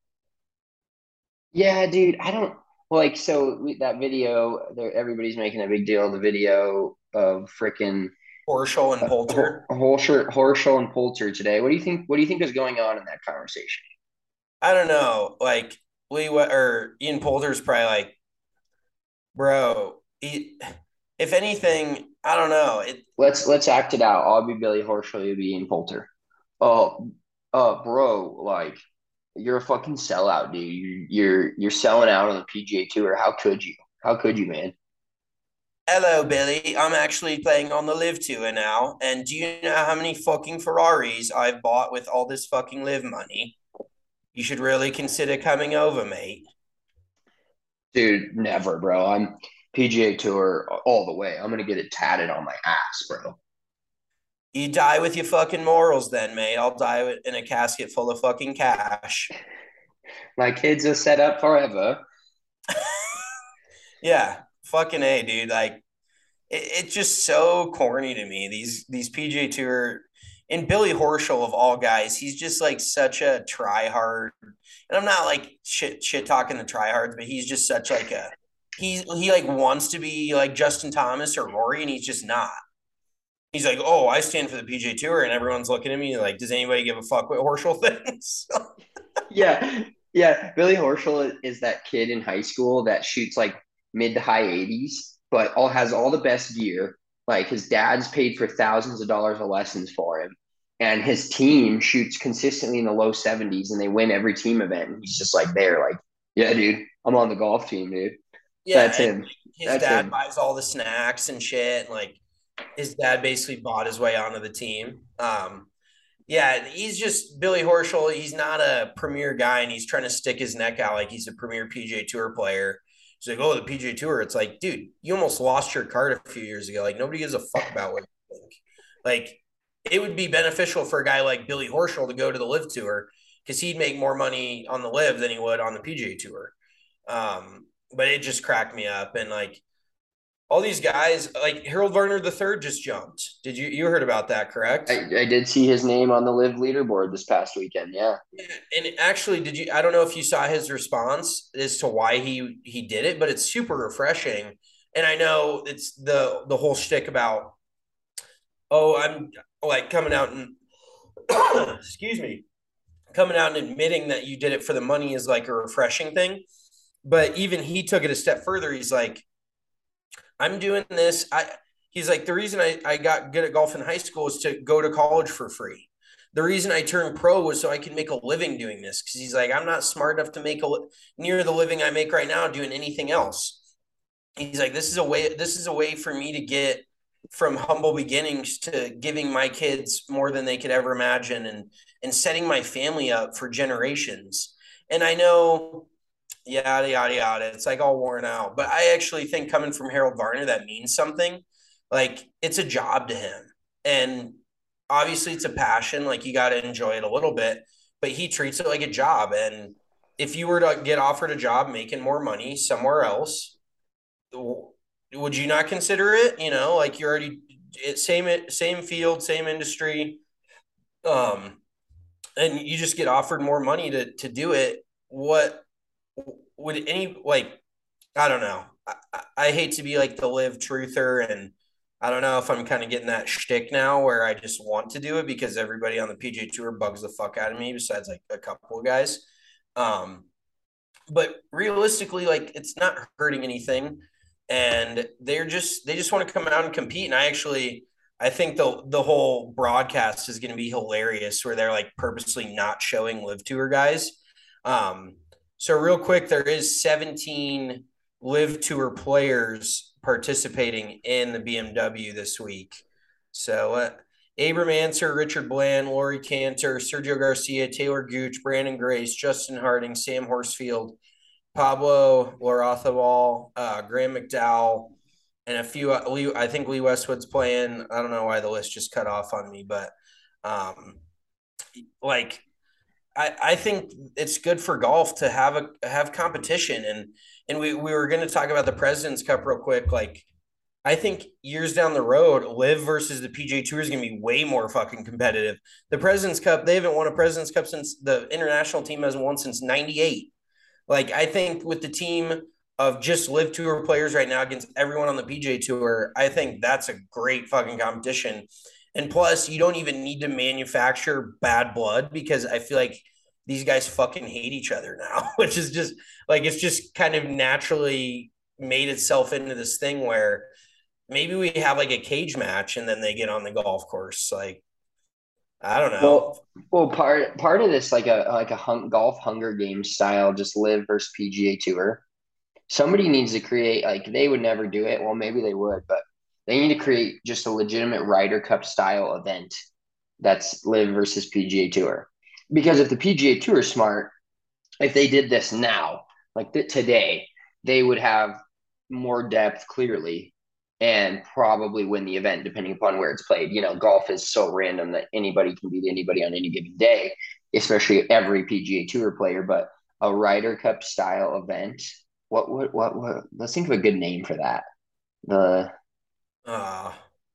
S1: Yeah, dude. I don't like so we, that video there. Everybody's making a big deal of the video of freaking
S5: Horschel and
S1: uh,
S5: Poulter.
S1: Horschel, Horschel and Poulter today. What do you think? What do you think is going on in that conversation?
S5: I don't know. Like Lee or Ian Poulter's probably like, bro. He, if anything, I don't know. It
S1: Let's let's act it out. I'll be Billy Horschel. You'll be Ian Poulter. Oh, uh, bro, like you're a fucking sellout, dude. You, you're you're selling out on the P G A Tour. How could you? How could you, man?
S5: Hello, Billy. I'm actually playing on the Live Tour now. And do you know how many fucking Ferraris I've bought with all this fucking Live money? You should really consider coming over, mate.
S1: Dude, never, bro. I'm P G A Tour all the way. I'm gonna get it tatted on my ass, bro.
S5: You die with your fucking morals then, mate. I'll die in a casket full of fucking cash.
S1: My kids are set up forever.
S5: Yeah, fucking A, dude. Like, it, it's just so corny to me. These these P G A Tour and Billy Horschel of all guys, he's just like such a tryhard. And I'm not like shit shit talking the tryhards, but he's just such like a he he like wants to be like Justin Thomas or Rory, and he's just not. He's like, oh, I stand for the P G A Tour, and everyone's looking at me like, does anybody give a fuck what Horschel thinks?
S1: Yeah, yeah. Billy Horschel is that kid in high school that shoots like mid to high eighties, but all has all the best gear. Like his dad's paid for thousands of dollars of lessons for him, and his team shoots consistently in the low seventies, and they win every team event. And he's just like there, like, yeah, dude, I'm on the golf team, dude.
S5: Yeah,
S1: That's
S5: and
S1: him.
S5: his
S1: That's
S5: dad
S1: him.
S5: buys all the snacks and shit, and like his dad basically bought his way onto the team. Um, yeah, he's just Billy Horschel. He's not a premier guy, and he's trying to stick his neck out like he's a premier P G A Tour player. He's like, oh, the P G A Tour. It's like, dude, you almost lost your card a few years ago. Like, nobody gives a fuck about what you think. Like, it would be beneficial for a guy like Billy Horschel to go to the Live Tour because he'd make more money on the Live than he would on the P G A Tour. Um, but it just cracked me up. And like all these guys, like Harold Varner the third just jumped. Did you you heard about that, correct?
S1: I, I did see his name on the Live leaderboard this past weekend. Yeah.
S5: And actually, did you I don't know if you saw his response as to why he he did it, but it's super refreshing. And I know it's the the whole shtick about, oh, I'm like coming out and excuse me, coming out and admitting that you did it for the money is like a refreshing thing. But even he took it a step further. He's like, I'm doing this. I he's like, the reason I, I got good at golf in high school is to go to college for free. The reason I turned pro was so I can make a living doing this. Cause he's like, I'm not smart enough to make a near the living I make right now doing anything else. He's like, this is a way, this is a way for me to get from humble beginnings to giving my kids more than they could ever imagine and and setting my family up for generations. And I know yada yada yada. It's like all worn out. But I actually think coming from Harold Varner, that means something. Like it's a job to him. And obviously it's a passion. Like you got to enjoy it a little bit, but he treats it like a job. And if you were to get offered a job making more money somewhere else, would you not consider it? You know, like you're already same same field, same industry, um, and you just get offered more money to to do it. What would any like? I don't know. I, I hate to be like the live truther, and I don't know if I'm kind of getting that shtick now where I just want to do it because everybody on the P G A Tour bugs the fuck out of me. Besides like a couple of guys, um, but realistically, like it's not hurting anything, and they're just they just want to come out and compete. And I actually I think the the whole broadcast is going to be hilarious, where they're like purposely not showing live tour guys. Um, so real quick, there is seventeen live tour players participating in the B M W this week. So uh, Abram Ancer, Richard Bland, Laurie Cantor, Sergio Garcia, Taylor Gooch, Brandon Grace, Justin Harding, Sam Horsfield, Pablo Larrazabal, uh, Graham McDowell, and a few. Uh, Lee, I think Lee Westwood's playing. I don't know why the list just cut off on me, but um, like I, I think it's good for golf to have a have competition. And and we, we were going to talk about the President's Cup real quick. Like I think years down the road, live versus the P G A Tour is going to be way more fucking competitive. The President's Cup, they haven't won a President's Cup since the international team hasn't won since ninety-eight. Like I think with the team of just live tour players right now against everyone on the P G A Tour, I think that's a great fucking competition. And plus, you don't even need to manufacture bad blood because I feel like these guys fucking hate each other now, which is just like it's just kind of naturally made itself into this thing where maybe we have like a cage match and then they get on the golf course. Like I don't know.
S1: Well, well, part part of this like a like a hung, golf Hunger Games style, just live versus P G A Tour. Somebody needs to create like they would never do it. Well, maybe they would, but they need to create just a legitimate Ryder Cup style event that's live versus P G A Tour. Because if the P G A Tour is smart, if they did this now, like th- today, they would have more depth clearly and probably win the event depending upon where it's played. You know, golf is so random that anybody can beat anybody on any given day, especially every P G A Tour player. But a Ryder Cup style event, what what what what? Let's think of a good name for that. The
S5: Uh,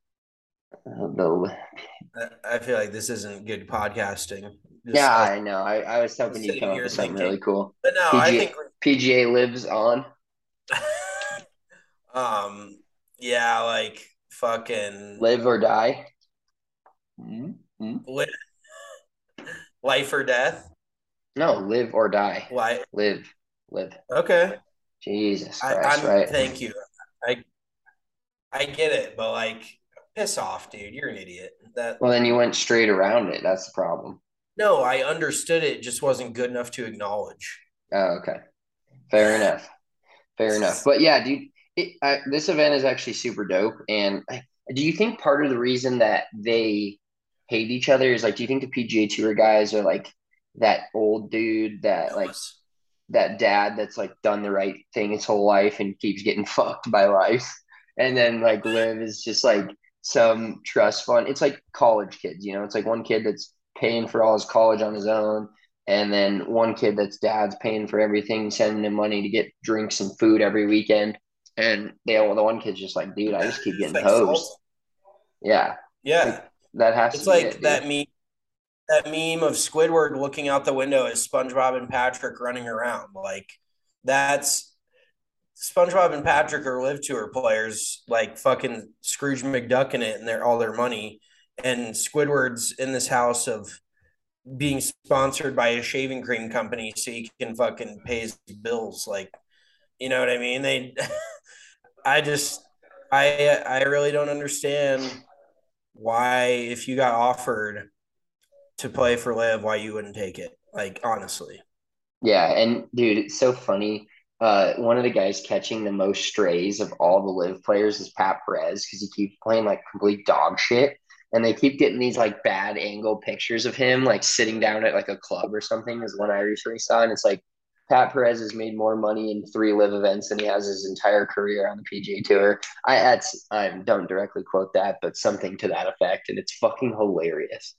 S1: uh, the
S5: I feel like this isn't good podcasting. Just
S1: yeah,
S5: us
S1: I know. I, I was hoping you'd
S5: sitting
S1: come up
S5: here
S1: with something
S5: thinking,
S1: really cool.
S5: but no, I
S1: P G A
S5: think
S1: P G A lives on.
S5: um, yeah, like fucking
S1: Live or die. Mm-hmm.
S5: li- life or death.
S1: No, live or die.
S5: Like
S1: Live, live.
S5: okay,
S1: Jesus
S5: I,
S1: Christ,
S5: I'm
S1: right?
S5: thank you. I I get it, but like, piss off, dude. You're an idiot. That
S1: Well, then you went straight around it. That's the problem.
S5: no, I understood it. Just wasn't good enough to acknowledge.
S1: Oh, okay. Fair enough. Fair enough. But yeah, dude, it, I, this event is actually super dope. And I, do you think part of the reason that they hate each other is like, do you think the P G A Tour guys are like that old dude that like that dad that's like done the right thing his whole life and keeps getting fucked by life? And then like Liv is just like some trust fund. It's like college kids, you know, it's like one kid that's paying for all his college on his own. And then one kid that's dad's paying for everything, sending him money to get drinks and food every weekend. And they all, the one kid's just like, dude, I just keep
S5: It's
S1: getting
S5: like
S1: hosed.
S5: salt.
S1: Yeah.
S5: Yeah,
S1: Like, that has
S5: it's
S1: to be
S5: like
S1: it,
S5: that
S1: dude.
S5: meme. That meme of Squidward looking out the window as SpongeBob and Patrick running around. Like that's SpongeBob and Patrick are live tour players, like fucking Scrooge McDuck in it, and they're all their money. And Squidward's in this house of being sponsored by a shaving cream company so he can fucking pay his bills. Like, you know what I mean? They, I just, I, I really don't understand why, if you got offered to play for Liv, why you wouldn't take it. Like, honestly.
S1: Yeah. And dude, it's so funny. Uh, one of the guys catching the most strays of all the live players is Pat Perez because he keeps playing like complete dog shit. And they keep getting these like bad angle pictures of him like sitting down at like a club or something is one I recently saw. And it's like, Pat Perez has made more money in three live events than he has his entire career on the P G A Tour. I that's I don't directly quote that, but something to that effect, and it's fucking hilarious.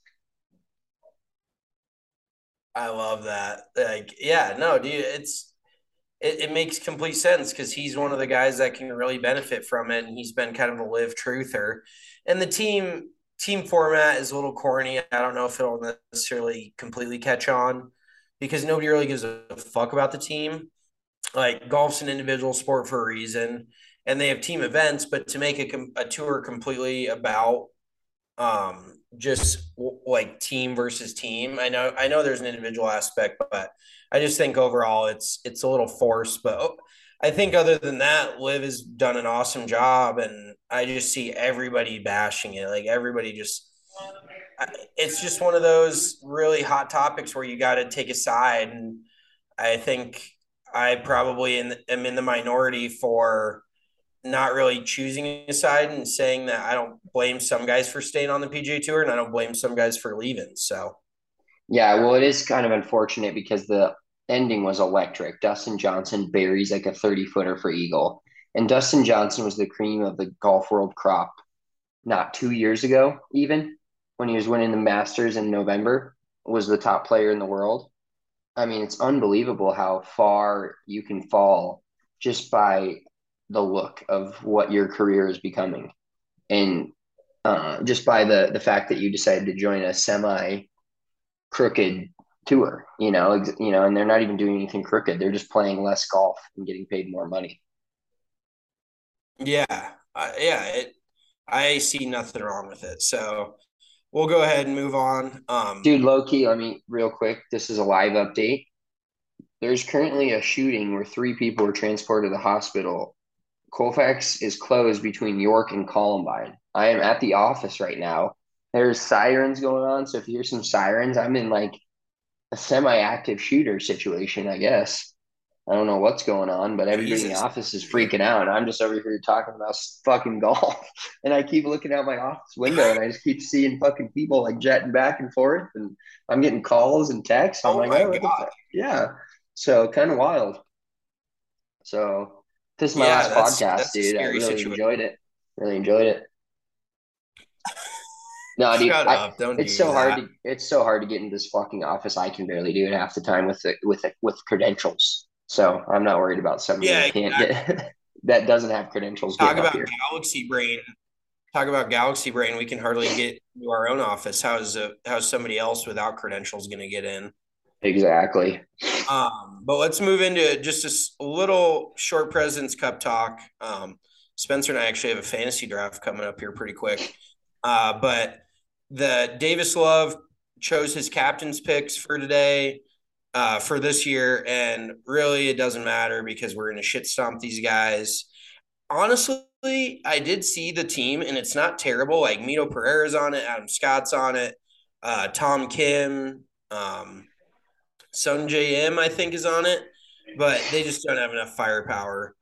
S5: I love that. Like, yeah, no, dude, it's it, it makes complete sense because he's one of the guys that can really benefit from it, and he's been kind of a live truther. And the team team format is a little corny. I don't know if it'll necessarily completely catch on because nobody really gives a fuck about the team. Like golf's an individual sport for a reason, and they have team events, but to make a, a tour completely about um just w- like team versus team. I know I know there's an individual aspect, but I just think overall it's it's a little forced. But oh, I think other than that, Liv has done an awesome job, and I just see everybody bashing it. Like everybody just, it's just one of those really hot topics where you got to take a side, and I think I probably in, am in the minority for not really choosing a side and saying that I don't blame some guys for staying on the P G A Tour and I don't blame some guys for leaving. So,
S1: Yeah, well, it is kind of unfortunate because the ending was electric. Dustin Johnson buries like a thirty footer for Eagle. And Dustin Johnson was the cream of the golf world crop not two years ago, even when he was winning the Masters in November, was the top player in the world. I mean, it's unbelievable how far you can fall just by the look of what your career is becoming. And uh, just by the the fact that you decided to join a semi crooked tour, you know, ex- you know, and they're not even doing anything crooked. They're just playing less golf and getting paid more money.
S5: yeah, uh, yeah, it, I see nothing wrong with it. So, we'll go ahead and move on. Um,
S1: Dude, low key, let me real quick. This is a live update. There's currently a shooting where three people were transported to the hospital. Colfax is closed between York and Columbine. I am at the office right now. There's sirens going on. So if you hear some sirens, I'm in like a semi-active shooter situation, I guess. I don't know what's going on, but everybody in the
S5: Jesus.
S1: office is freaking out. I'm just over here talking about fucking golf. And I keep looking out my office window and I just keep seeing fucking people like jetting back and forth. And I'm getting calls and texts. I'm
S5: Oh
S1: like,
S5: my
S1: oh, what the
S5: God.
S1: fuck? Yeah. So kind of wild. So this is my
S5: Yeah,
S1: last
S5: that's
S1: podcast,
S5: that's a
S1: dude. I
S5: scary
S1: really
S5: situation.
S1: enjoyed it. Really enjoyed it. No, dude,
S5: Shut
S1: I
S5: up. Don't
S1: it's
S5: do
S1: so hard
S5: that.
S1: to it's so hard to get into this fucking office. I can barely do it half the time with the with the, with credentials. So I'm not worried about somebody
S5: Yeah,
S1: that can't
S5: exactly.
S1: get that doesn't have credentials
S5: Talk
S1: getting up
S5: about
S1: here.
S5: galaxy brain. Talk about galaxy brain. We can hardly get to our own office. How's a, how's somebody else without credentials going to get in?
S1: Exactly.
S5: Um, but let's move into just a s- a little short President's Cup talk. Um, Spencer and I actually have a fantasy draft coming up here pretty quick. Uh, but the Davis Love chose his captain's picks for today, uh, for this year, and really it doesn't matter because we're going to shit stomp these guys. Honestly, I did see the team, and it's not terrible. Like Mito Pereira's on it, Adam Scott's on it, uh, Tom Kim, um, Sun J M, I think, is on it, but they just don't have enough firepower.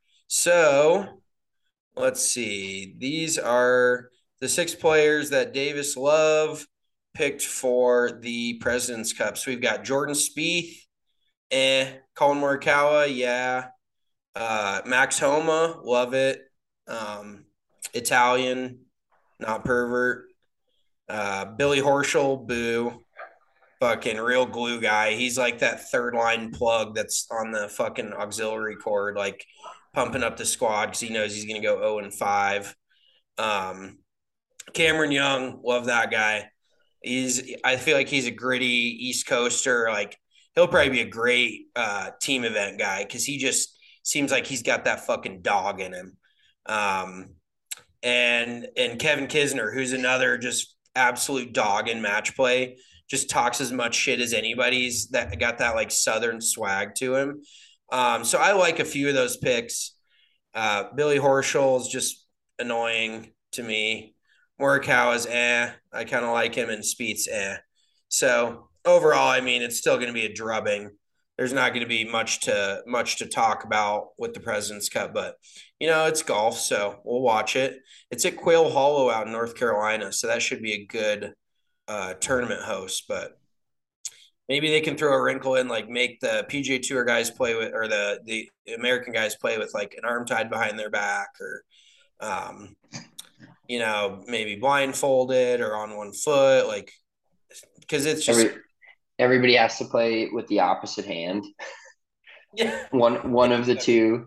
S5: So let's see. These are the six players that Davis Love picked for the President's Cup. So we've got Jordan Spieth, eh. Colin Morikawa, yeah. Uh, Max Homa, love it. Um, Italian, not pervert. Uh, Billy Horschel, boo. Fucking real glue guy. He's like that third line plug that's on the fucking auxiliary cord, like pumping up the squad because he knows he's going to go zero and five. Um, Cameron Young, love that guy. He's, I feel like he's a gritty East Coaster. Like he'll probably be a great uh, team event guy because he just seems like he's got that fucking dog in him. Um, and and Kevin Kisner, who's another just absolute dog in match play, just talks as much shit as anybody's that got that like Southern swag to him. Um, so I like a few of those picks. Uh, Billy Horschel is just annoying to me. Morikawa is eh. I kind of like him, and Speed's eh. So overall, I mean, it's still going to be a drubbing. There's not going to be much to much to talk about with the President's Cup, but you know it's golf, so we'll watch it. It's at Quail Hollow out in North Carolina, so that should be a good uh, tournament host. But maybe they can throw a wrinkle in, like make the P G A Tour guys play with, or the the American guys play with like an arm tied behind their back, or um, you know, maybe blindfolded or on one foot, like because it's just
S1: Every everybody has to play with the opposite hand.
S5: yeah.
S1: One one of the two.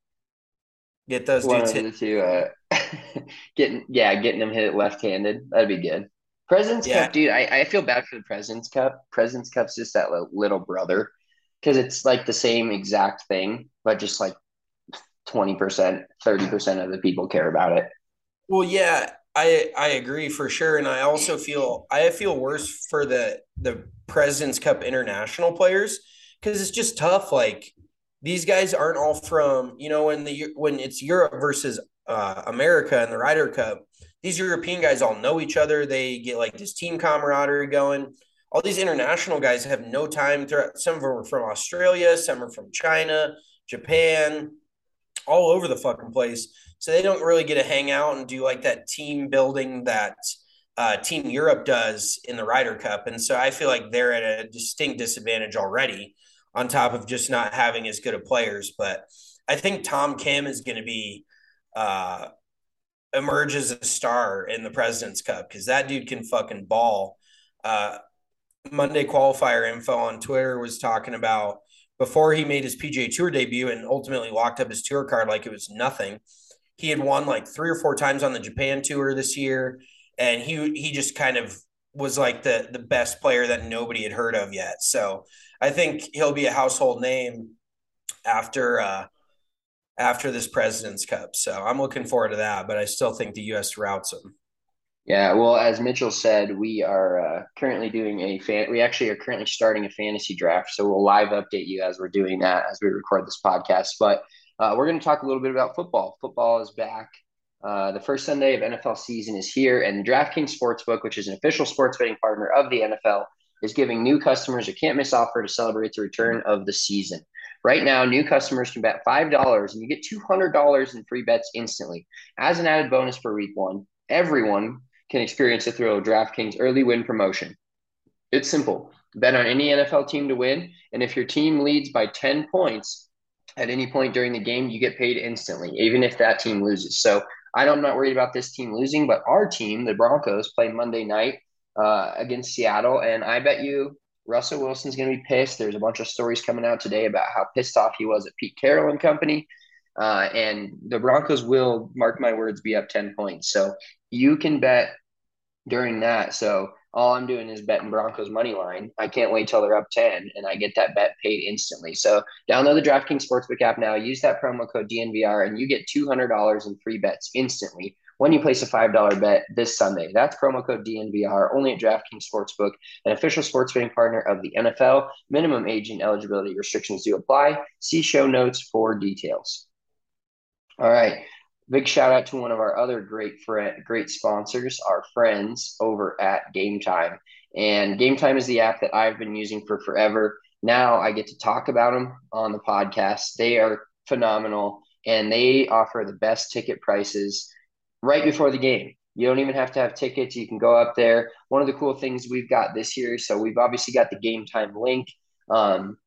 S5: Get those
S1: One
S5: dudes
S1: of
S5: hit.
S1: the two. Uh, getting yeah, getting them hit left-handed. That'd be good. President's
S5: Yeah,
S1: Cup, dude. I, I feel bad for the President's Cup. President's Cup's just that little, little brother because it's like the same exact thing, but just like twenty percent, thirty percent of the people care about it.
S5: well, yeah, I I agree for sure, and I also feel I feel worse for the the President's Cup international players because it's just tough. Like these guys aren't all from, you know, when the when it's Europe versus uh, America in the Ryder Cup. These European guys all know each other. They get like this team camaraderie going. All these international guys have no time. To, some of them are from Australia, some are from China, Japan, all over the fucking place. So they don't really get to hang out and do like that team building that uh, Team Europe does in the Ryder Cup. And so I feel like they're at a distinct disadvantage already, on top of just not having as good of players. But I think Tom Kim is going to be uh, emerge as a star in the President's Cup because that dude can fucking ball. Uh, Monday qualifier info on Twitter was talking about before he made his P G A Tour debut and ultimately locked up his tour card like it was nothing. He had won like three or four times on the Japan tour this year, and he he just kind of was like the the best player that nobody had heard of yet. So I think he'll be a household name after uh, after this President's Cup. So I'm looking forward to that, but I still think the U S routes him.
S1: Yeah, well, as Mitchell said, we are uh, currently doing a fan. We actually are currently starting a fantasy draft, so we'll live update you as we're doing that as we record this podcast. But uh, we're going to talk a little bit about football. Football is back. Uh, the first Sunday of N F L season is here, and DraftKings Sportsbook, which is an official sports betting partner of the N F L, is giving new customers a can't-miss offer to celebrate the return of the season. Right now, new customers can bet five dollars and you get two hundred dollars in free bets instantly. As an added bonus for week one, everyone can experience the thrill of DraftKings early win promotion. It's simple. Bet on any N F L team to win, and if your team leads by ten points at any point during the game, you get paid instantly, even if that team loses. So I'm not worried about this team losing, but our team, the Broncos, play Monday night uh, against Seattle, and I bet you Russell Wilson's going to be pissed. There's a bunch of stories coming out today about how pissed off he was at Pete Carroll and company. Uh, and the Broncos will, mark my words, be up ten points. So you can bet during that. So all I'm doing is betting Broncos money line. I can't wait till they're up ten and I get that bet paid instantly. So download the DraftKings Sportsbook app now. Use that promo code D N V R and you get two hundred dollars in free bets instantly when you place a five dollar bet this Sunday. That's promo code D N V R only at DraftKings Sportsbook, an official sports betting partner of the N F L. Minimum age and eligibility restrictions do apply. See show notes for details. All right. Big shout out to one of our other great friend, great sponsors, our friends over at Game Time. And Game Time is the app that I've been using for forever. Now I get to talk about them on the podcast. They are phenomenal, and they offer the best ticket prices right before the game. You don't even have to have tickets. You can go up there. One of the cool things we've got this year, so we've obviously got the Game Time link. Um,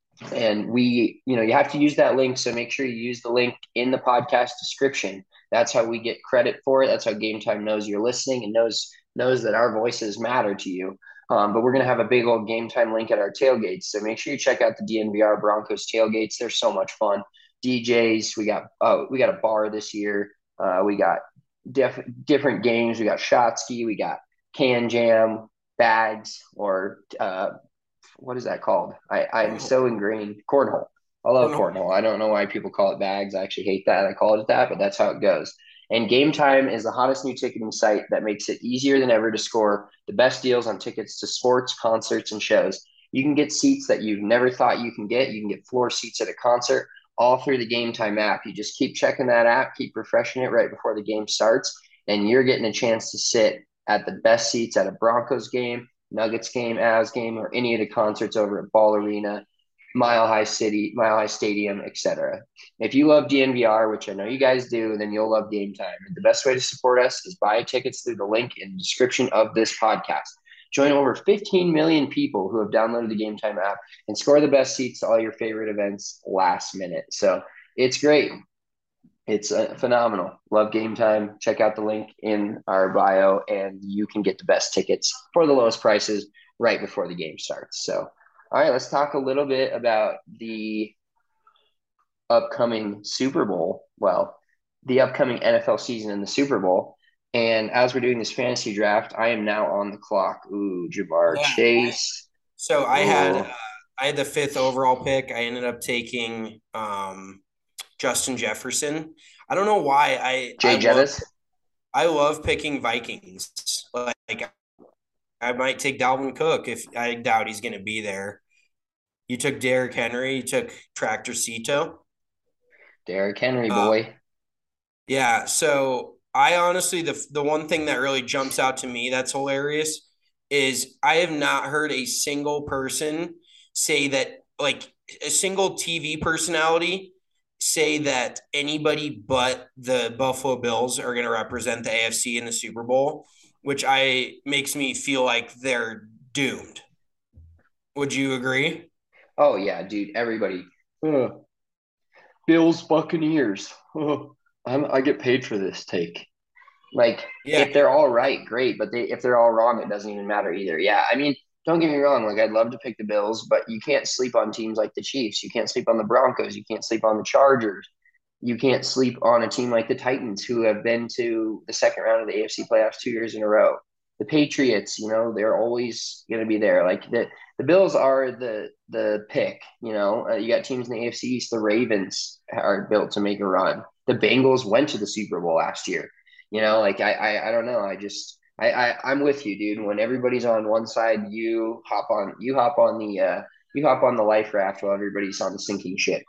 S1: and we, you know, you have to use that link. So make sure you use the link in the podcast description. That's how we get credit for it. That's how Game Time knows you're listening and knows knows that our voices matter to you. Um, but we're going to have a big old Game Time link at our tailgates. So make sure you check out the D N V R Broncos tailgates. They're so much fun. D Js, we got oh, we got a bar this year. Uh, we got def- different games. We got shot ski. We got can jam, bags, or uh, what is that called? I, I'm so ingrained. Cornhole. I love cornhole. I don't know why people call it bags. I actually hate that. I call it that, but that's how it goes. And Game Time is the hottest new ticketing site that makes it easier than ever to score the best deals on tickets to sports, concerts, and shows. You can get seats that you've never thought you can get. You can get floor seats at a concert all through the Game Time app. You just keep checking that app, keep refreshing it right before the game starts, and you're getting a chance to sit at the best seats at a Broncos game, Nuggets game, Avs game, or any of the concerts over at Ball Arena, Mile High City, Mile High Stadium, et cetera. If you love D N V R, which I know you guys do, then you'll love Game Time. And the best way to support us is buy tickets through the link in the description of this podcast. Join over fifteen million people who have downloaded the Game Time app and score the best seats to all your favorite events last minute. So it's great. It's uh, phenomenal. Love Game Time. Check out the link in our bio, and you can get the best tickets for the lowest prices right before the game starts. So, all right, let's talk a little bit about the upcoming Super Bowl. Well, the upcoming N F L season and the Super Bowl. And as we're doing this fantasy draft, I am now on the clock. Ooh, Jamar
S5: Yeah.
S1: Chase.
S5: So I
S1: Ooh.
S5: had uh, I had the fifth overall pick. I ended up taking um, Justin Jefferson. I don't know why I
S1: Jay
S5: I
S1: Jettis.
S5: love, I love picking Vikings. Like I might take Dalvin Cook if I doubt he's going to be there. You took Derrick Henry. You took Tractor Cito.
S1: Derrick Henry,
S5: Uh,
S1: boy.
S5: yeah. So I honestly, the the one thing that really jumps out to me that's hilarious is I have not heard a single person say that, like a single T V personality say that anybody but the Buffalo Bills are going to represent the A F C in the Super Bowl, which I makes me feel like they're doomed. Would you agree?
S1: Oh, yeah, dude. Everybody. Uh, Bills Buccaneers. Oh, I'm, I get paid for this take. Like,
S5: Yeah.
S1: if they're all right, great. But they, if they're all wrong, it doesn't even matter either. Yeah, I mean, don't get me wrong. Like, I'd love to pick the Bills, but you can't sleep on teams like the Chiefs. You can't sleep on the Broncos. You can't sleep on the Chargers. You can't sleep on a team like the Titans, who have been to the second round of the A F C playoffs two years in a row. The Patriots, you know, they're always going to be there. Like the the Bills are the the pick. You know, uh, you got teams in the A F C East. The Ravens are built to make a run. The Bengals went to the Super Bowl last year. You know, like I I, I don't know. I just I, I I'm with you, dude. When everybody's on one side, you hop on you hop on the uh, you hop on the life raft while everybody's on the sinking ship.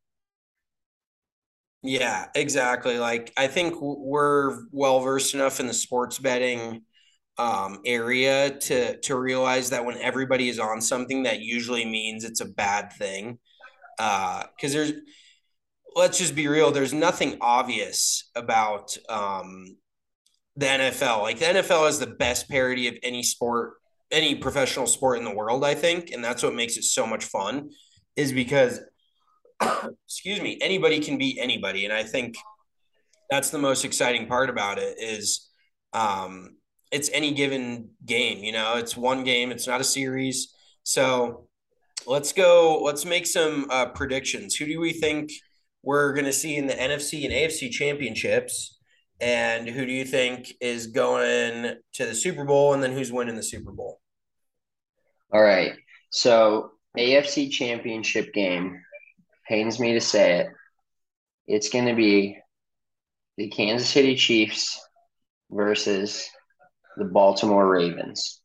S5: Yeah, exactly. Like I think we're well versed enough in the sports betting um, area to to realize that when everybody is on something, that usually means it's a bad thing. Uh, because there's, let's just be real, there's nothing obvious about um, the N F L. Like the N F L is the best parody of any sport, any professional sport in the world, I think, and that's what makes it so much fun. Is because excuse me, anybody can beat anybody, and I think that's the most exciting part about it is um, it's any given game. You know, it's one game. It's not a series. So let's go. Let's make some uh, predictions. Who do we think we're going to see in the N F C and A F C championships? And who do you think is going to the Super Bowl? And then who's winning the Super Bowl?
S1: All right. So A F C championship game, pains me to say it. It's going to be the Kansas City Chiefs versus the Baltimore Ravens.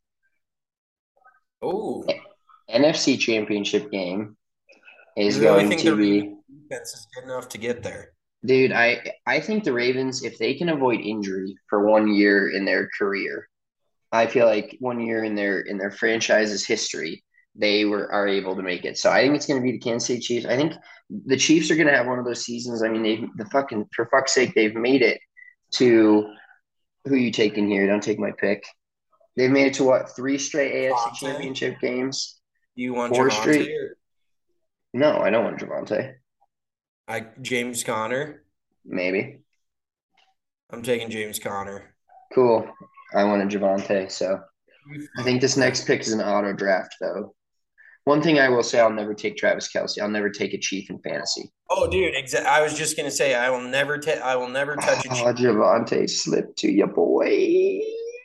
S5: Oh,
S1: N F C championship game is
S5: you really
S1: going
S5: think
S1: to
S5: the
S1: be,
S5: defense is good enough to get there?
S1: dude, I I think the Ravens, if they can avoid injury for one year in their career, I feel like one year in their in their franchise's history, they were are able to make it. So I think it's going to be the Kansas City Chiefs. I think the Chiefs are going to have one of those seasons. I mean, they the fucking for fuck's sake, they've made it to who you taking here? Don't take my pick. They've made it to what, three straight A F C
S5: Javonte?
S1: championship games?
S5: Do you want
S1: Four
S5: Javonte
S1: straight?
S5: or
S1: No, I don't want Javante.
S5: like James Conner?
S1: Maybe.
S5: I'm taking James Conner.
S1: Cool. I wanted Javante. So I think this next pick is an auto draft, though. One thing I will say, I'll never take Travis Kelce. I'll never take a Chief in fantasy.
S5: Oh, dude, exa- I was just gonna say I will never ta- I will never touch a
S1: Oh,
S5: Chief.
S1: Javante slipped to your boy.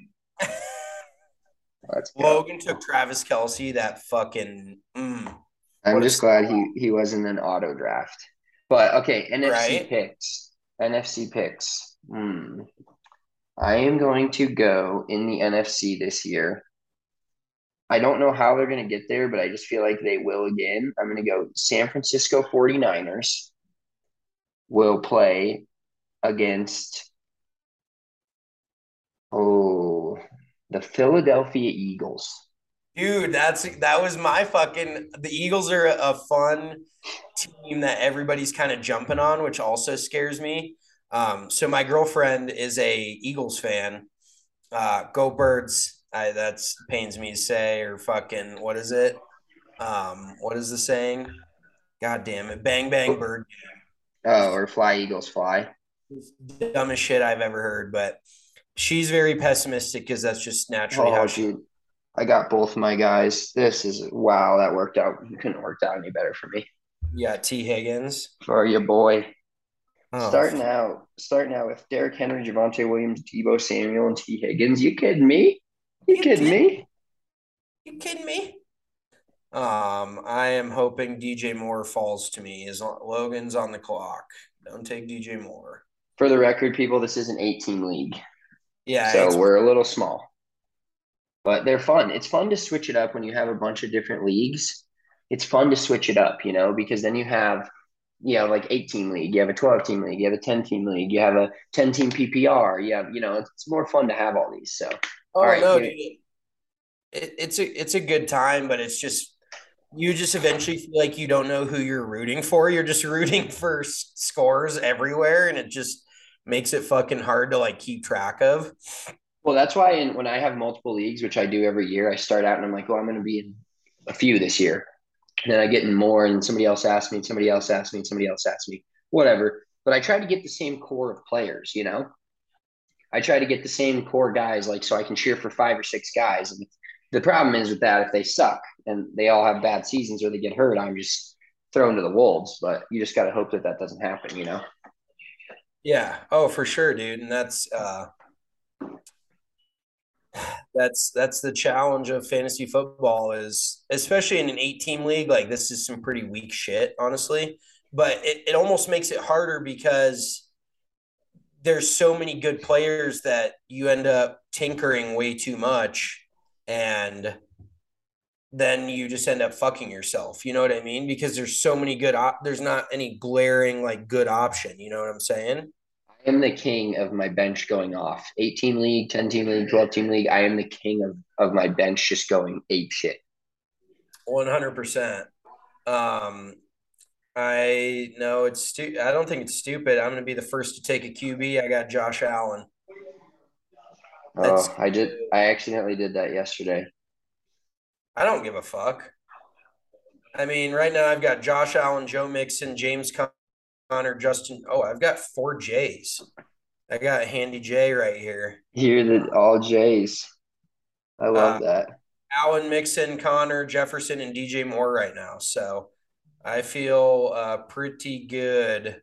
S1: Let's go.
S5: Logan took Travis Kelce. That fucking mm,
S1: I'm
S5: what a
S1: just glad he he wasn't an auto draft. But okay, N F C
S5: right.
S1: picks. N F C picks. Hmm. I am going to go in the N F C this year. I don't know how they're going to get there, but I just feel like they will again. I'm going to go San Francisco 49ers will play against, oh, the Philadelphia Eagles.
S5: Dude, that's that was my fucking. The Eagles are a, a fun team that everybody's kind of jumping on, which also scares me. Um, so my girlfriend is a Eagles fan. Uh, go Birds! I that's pains me to say, or fucking what is it? Um, what is the saying? God damn it. Bang bang bird
S1: Oh, or fly Eagles fly.
S5: game. Dumbest shit I've ever heard, but she's very pessimistic because that's just naturally how
S1: Oh,
S5: she
S1: dude, I got both my guys. This is wow. That worked out. It couldn't have worked out any better for me.
S5: yeah, T Higgins.
S1: For your boy.
S5: Oh,
S1: Starting out, starting out with Derrick Henry, Javonte Williams, Debo Samuel, and T. Higgins. You kidding me? You
S5: you
S1: kidding
S5: kidding?
S1: me?
S5: You kidding me? Um, I am hoping D J Moore falls to me. Is Logan's on the clock? Don't take D J Moore.
S1: For the record, people, this is an eight-team league,
S5: Yeah,
S1: so
S5: it's
S1: we're a little small, but they're fun. It's fun to switch it up when you have a bunch of different leagues. It's fun to switch it up, you know, because then you have, you know, like eight-team league, you have a twelve-team league, you have a ten-team league, you have a ten-team P P R. You have, you know, it's more fun to have all these. So, all
S5: oh
S1: right,
S5: no,
S1: give
S5: dude.
S1: it.
S5: It, it's a it's a good time, but it's just you just eventually feel like you don't know who you're rooting for. You're just rooting for s- scores everywhere, and it just makes it fucking hard to like keep track of.
S1: Well, that's why in, when I have multiple leagues, which I do every year, I start out and I'm like, oh, I'm going to be in a few this year. And then I get in more, and somebody else asks me, and somebody else asks me, and somebody else asks me, whatever. But I try to get the same core of players, you know? I try to get the same core guys, like, so I can cheer for five or six guys. And the problem is with that, if they suck and they all have bad seasons or they get hurt, I'm just thrown to the wolves. But you just got to hope that that doesn't happen, you know?
S5: Yeah. Oh, for sure, dude. And that's uh that's that's the challenge of fantasy football is especially in an eight team league, like this is some pretty weak shit, honestly. But it, it almost makes it harder because there's so many good players that you end up tinkering way too much and then you just end up fucking yourself. You know what I mean? Because there's so many good op- there's not any glaring like good option, you know what I'm saying?
S1: I am the king of my bench going off. eight-team league, ten-team league, twelve-team league. I am the king of, of my bench just going ape shit.
S5: one hundred percent. Um I know it's stu- I don't think it's stupid. I'm going to be the first to take a Q B. I got Josh Allen. That's
S1: Oh, I did. I accidentally did that yesterday.
S5: I don't give a fuck. I mean, right now I've got Josh Allen, Joe Mixon, James Conner, Justin. Oh, I've got four J's. I got a handy J right here.
S1: Here the all J's. I
S5: Uh,
S1: love that.
S5: Allen, Mixon, Connor, Jefferson, and D J Moore right now. So I feel uh, pretty good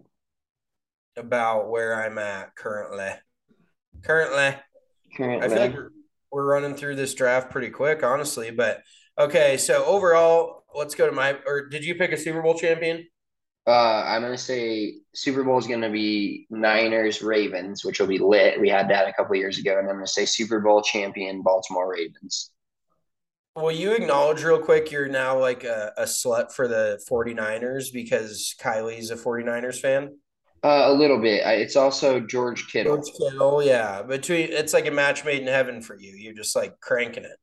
S5: about where I'm at currently. Currently, I feel like
S1: Currently,
S5: we're, we're running through this draft pretty quick, honestly. But okay, so overall, let's go to my. Or did you pick a Super Bowl champion?
S1: uh, I'm gonna say Super Bowl is gonna be Niners Ravens, which will be lit. We had that a couple years ago, and I'm gonna say Super Bowl champion Baltimore Ravens.
S5: Will you acknowledge real quick you're now like a, a slut for the 49ers because Kylie's a 49ers fan?
S1: Uh, a little bit. I, it's also George
S5: George
S1: Kittle.
S5: Kittle, yeah. Between it's like a match made in heaven for you. You're just like cranking it.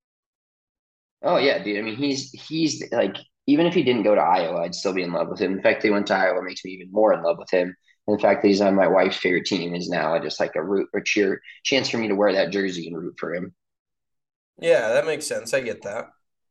S1: Oh yeah, dude. I mean, he's he's like even if he didn't go to Iowa, I'd still be in love with him. In fact, he went to Iowa makes me even more in love with him. And the fact that he's on my wife's favorite team is now just like a root or cheer chance for me to wear that jersey and root for him.
S5: Yeah, that makes sense. I get that.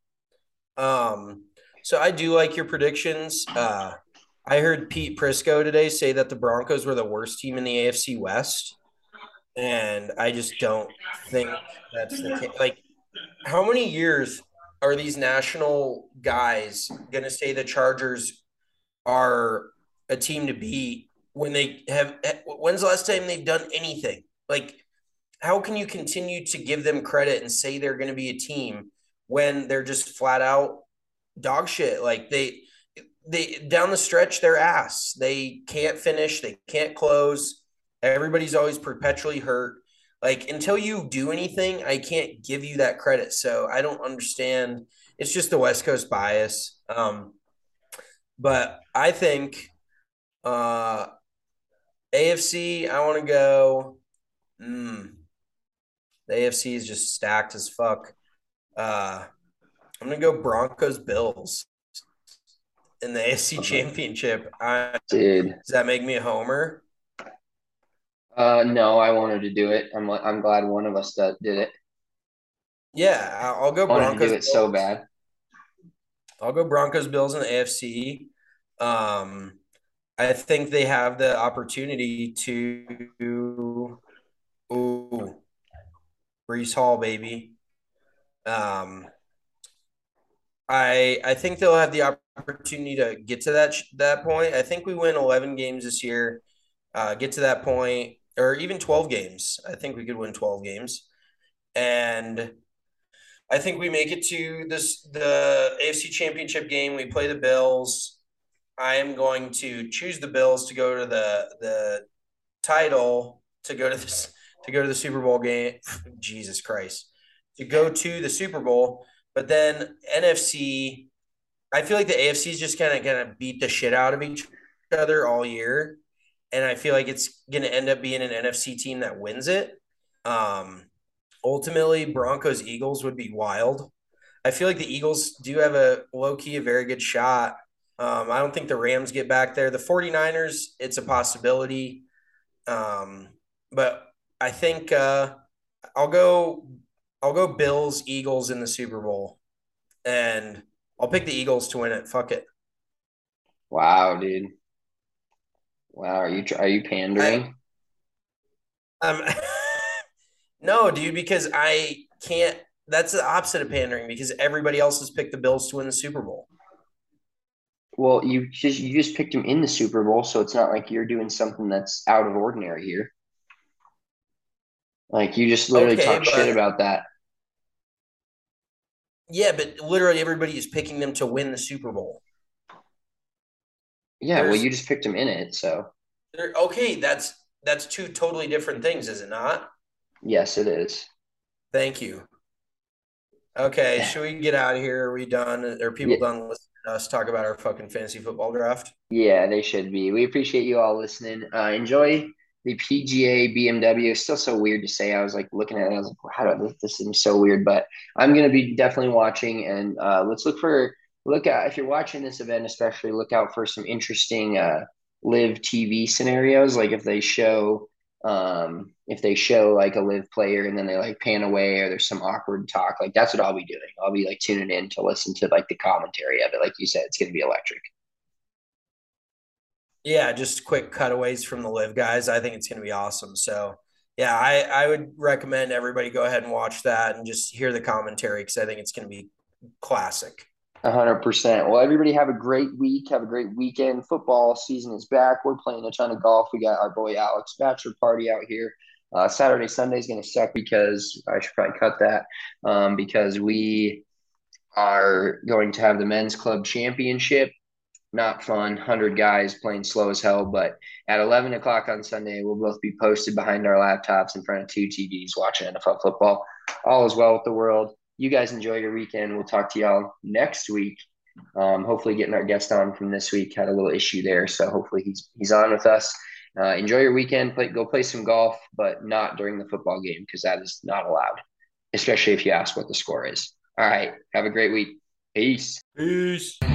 S5: Um, so I do like your predictions. Uh, I heard Pete Prisco today say that the Broncos were the worst team in the A F C West, and I just don't think that's the case. Like, how many years are these national guys going to say the Chargers are a team to beat when they have? When's the last time they've done anything? Like, how can you continue to give them credit and say they're going to be a team when they're just flat out dog shit? Like they they down the stretch they're ass. They can't finish, they can't close. Everybody's always perpetually hurt. Like until you do anything, I can't give you that credit. So I don't understand. It's just the West Coast bias. Um, but I think uh A F C, I want to go. Mm, the A F C is just stacked as fuck. Uh, I'm gonna go Broncos Bills in the A F C
S1: Uh,
S5: Championship. I,
S1: dude,
S5: does that make me a homer?
S1: uh, no, I wanted to do it. I'm I'm glad one of us that did it.
S5: Yeah, I- I'll go
S1: I wanted to do
S5: Broncos.
S1: it so
S5: Bills.
S1: bad.
S5: I'll go Broncos Bills in the A F C. Um, I think they have the opportunity to, ooh, Brees Hall, baby. Um, I I think they'll have the opportunity to get to that that point. I think we win eleven games this year. Uh, get to that point, or even twelve games. I think we could win twelve games, and I think we make it to this the A F C Championship game. We play the Bills. I am going to choose the Bills to go to the the title to go to this to go to the Super Bowl game. Jesus Christ, to go to the Super Bowl. But then N F C, I feel like the A F C is just kind of gonna beat the shit out of each other all year, and I feel like it's gonna end up being an N F C team that wins it. Um, ultimately, Broncos Eagles would be wild. I feel like the Eagles do have a low key, a very good shot. Um, I don't think the Rams get back there. The 49ers, it's a possibility. Um, but I think uh, I'll go I'll go Bills, Eagles in the Super Bowl. And I'll pick the Eagles to win it. Fuck it.
S1: Wow, dude. Wow, are you are you
S5: I
S1: pandering?
S5: um no, dude, because I can't that's the opposite of pandering because everybody else has picked the Bills to win the Super Bowl.
S1: Well, you just you just picked him in the Super Bowl, so it's not like you're doing something that's out of ordinary here. Like you just literally
S5: Okay,
S1: talk shit
S5: but
S1: about that.
S5: yeah, but literally everybody is picking them to win the Super Bowl.
S1: Yeah, well,
S5: There's
S1: you just picked him in it, so
S5: there okay, that's that's two totally different things, is it not?
S1: yes, it is.
S5: Thank you. Okay, should we get out of here? Are we done? Are people
S1: Yeah,
S5: done listening to us talk about our fucking fantasy football draft?
S1: yeah, they should be. We appreciate you all listening. Uh, enjoy the P G A B M W. It's still so weird to say. I was like looking at it. I was like, how do this, this seems so weird? But I'm gonna be definitely watching, and uh, let's look for look out if you're watching this event, especially look out for some interesting uh, live T V scenarios. Like if they show um, if they show like a live player and then they like pan away or there's some awkward talk, like that's what I'll be doing. I'll be like tuning in to listen to like the commentary of it. Like you said, it's gonna be electric.
S5: Yeah, just quick cutaways from the live guys. I think it's going to be awesome. So, yeah, I, I would recommend everybody go ahead and watch that and just hear the commentary because I think it's going to be classic.
S1: A hundred percent. Well, everybody have a great week. Have a great weekend. Football season is back. We're playing a ton of golf. We got our boy Alex bachelor party out here. Uh, Saturday, Sunday is going to suck because I should probably cut that um, because we are going to have the men's club championship. Not fun. Hundred guys playing slow as hell. But at eleven o'clock on Sunday, we'll both be posted behind our laptops in front of two T Vs watching N F L football. All is well with the world. You guys enjoy your weekend. We'll talk to y'all next week. Um, hopefully, getting our guest on from this week had a little issue there, so hopefully he's he's on with us. Uh, enjoy your weekend. Play, go play some golf, but not during the football game because that is not allowed, especially if you ask what the score is. All right. Have a great week. Peace.
S5: Peace.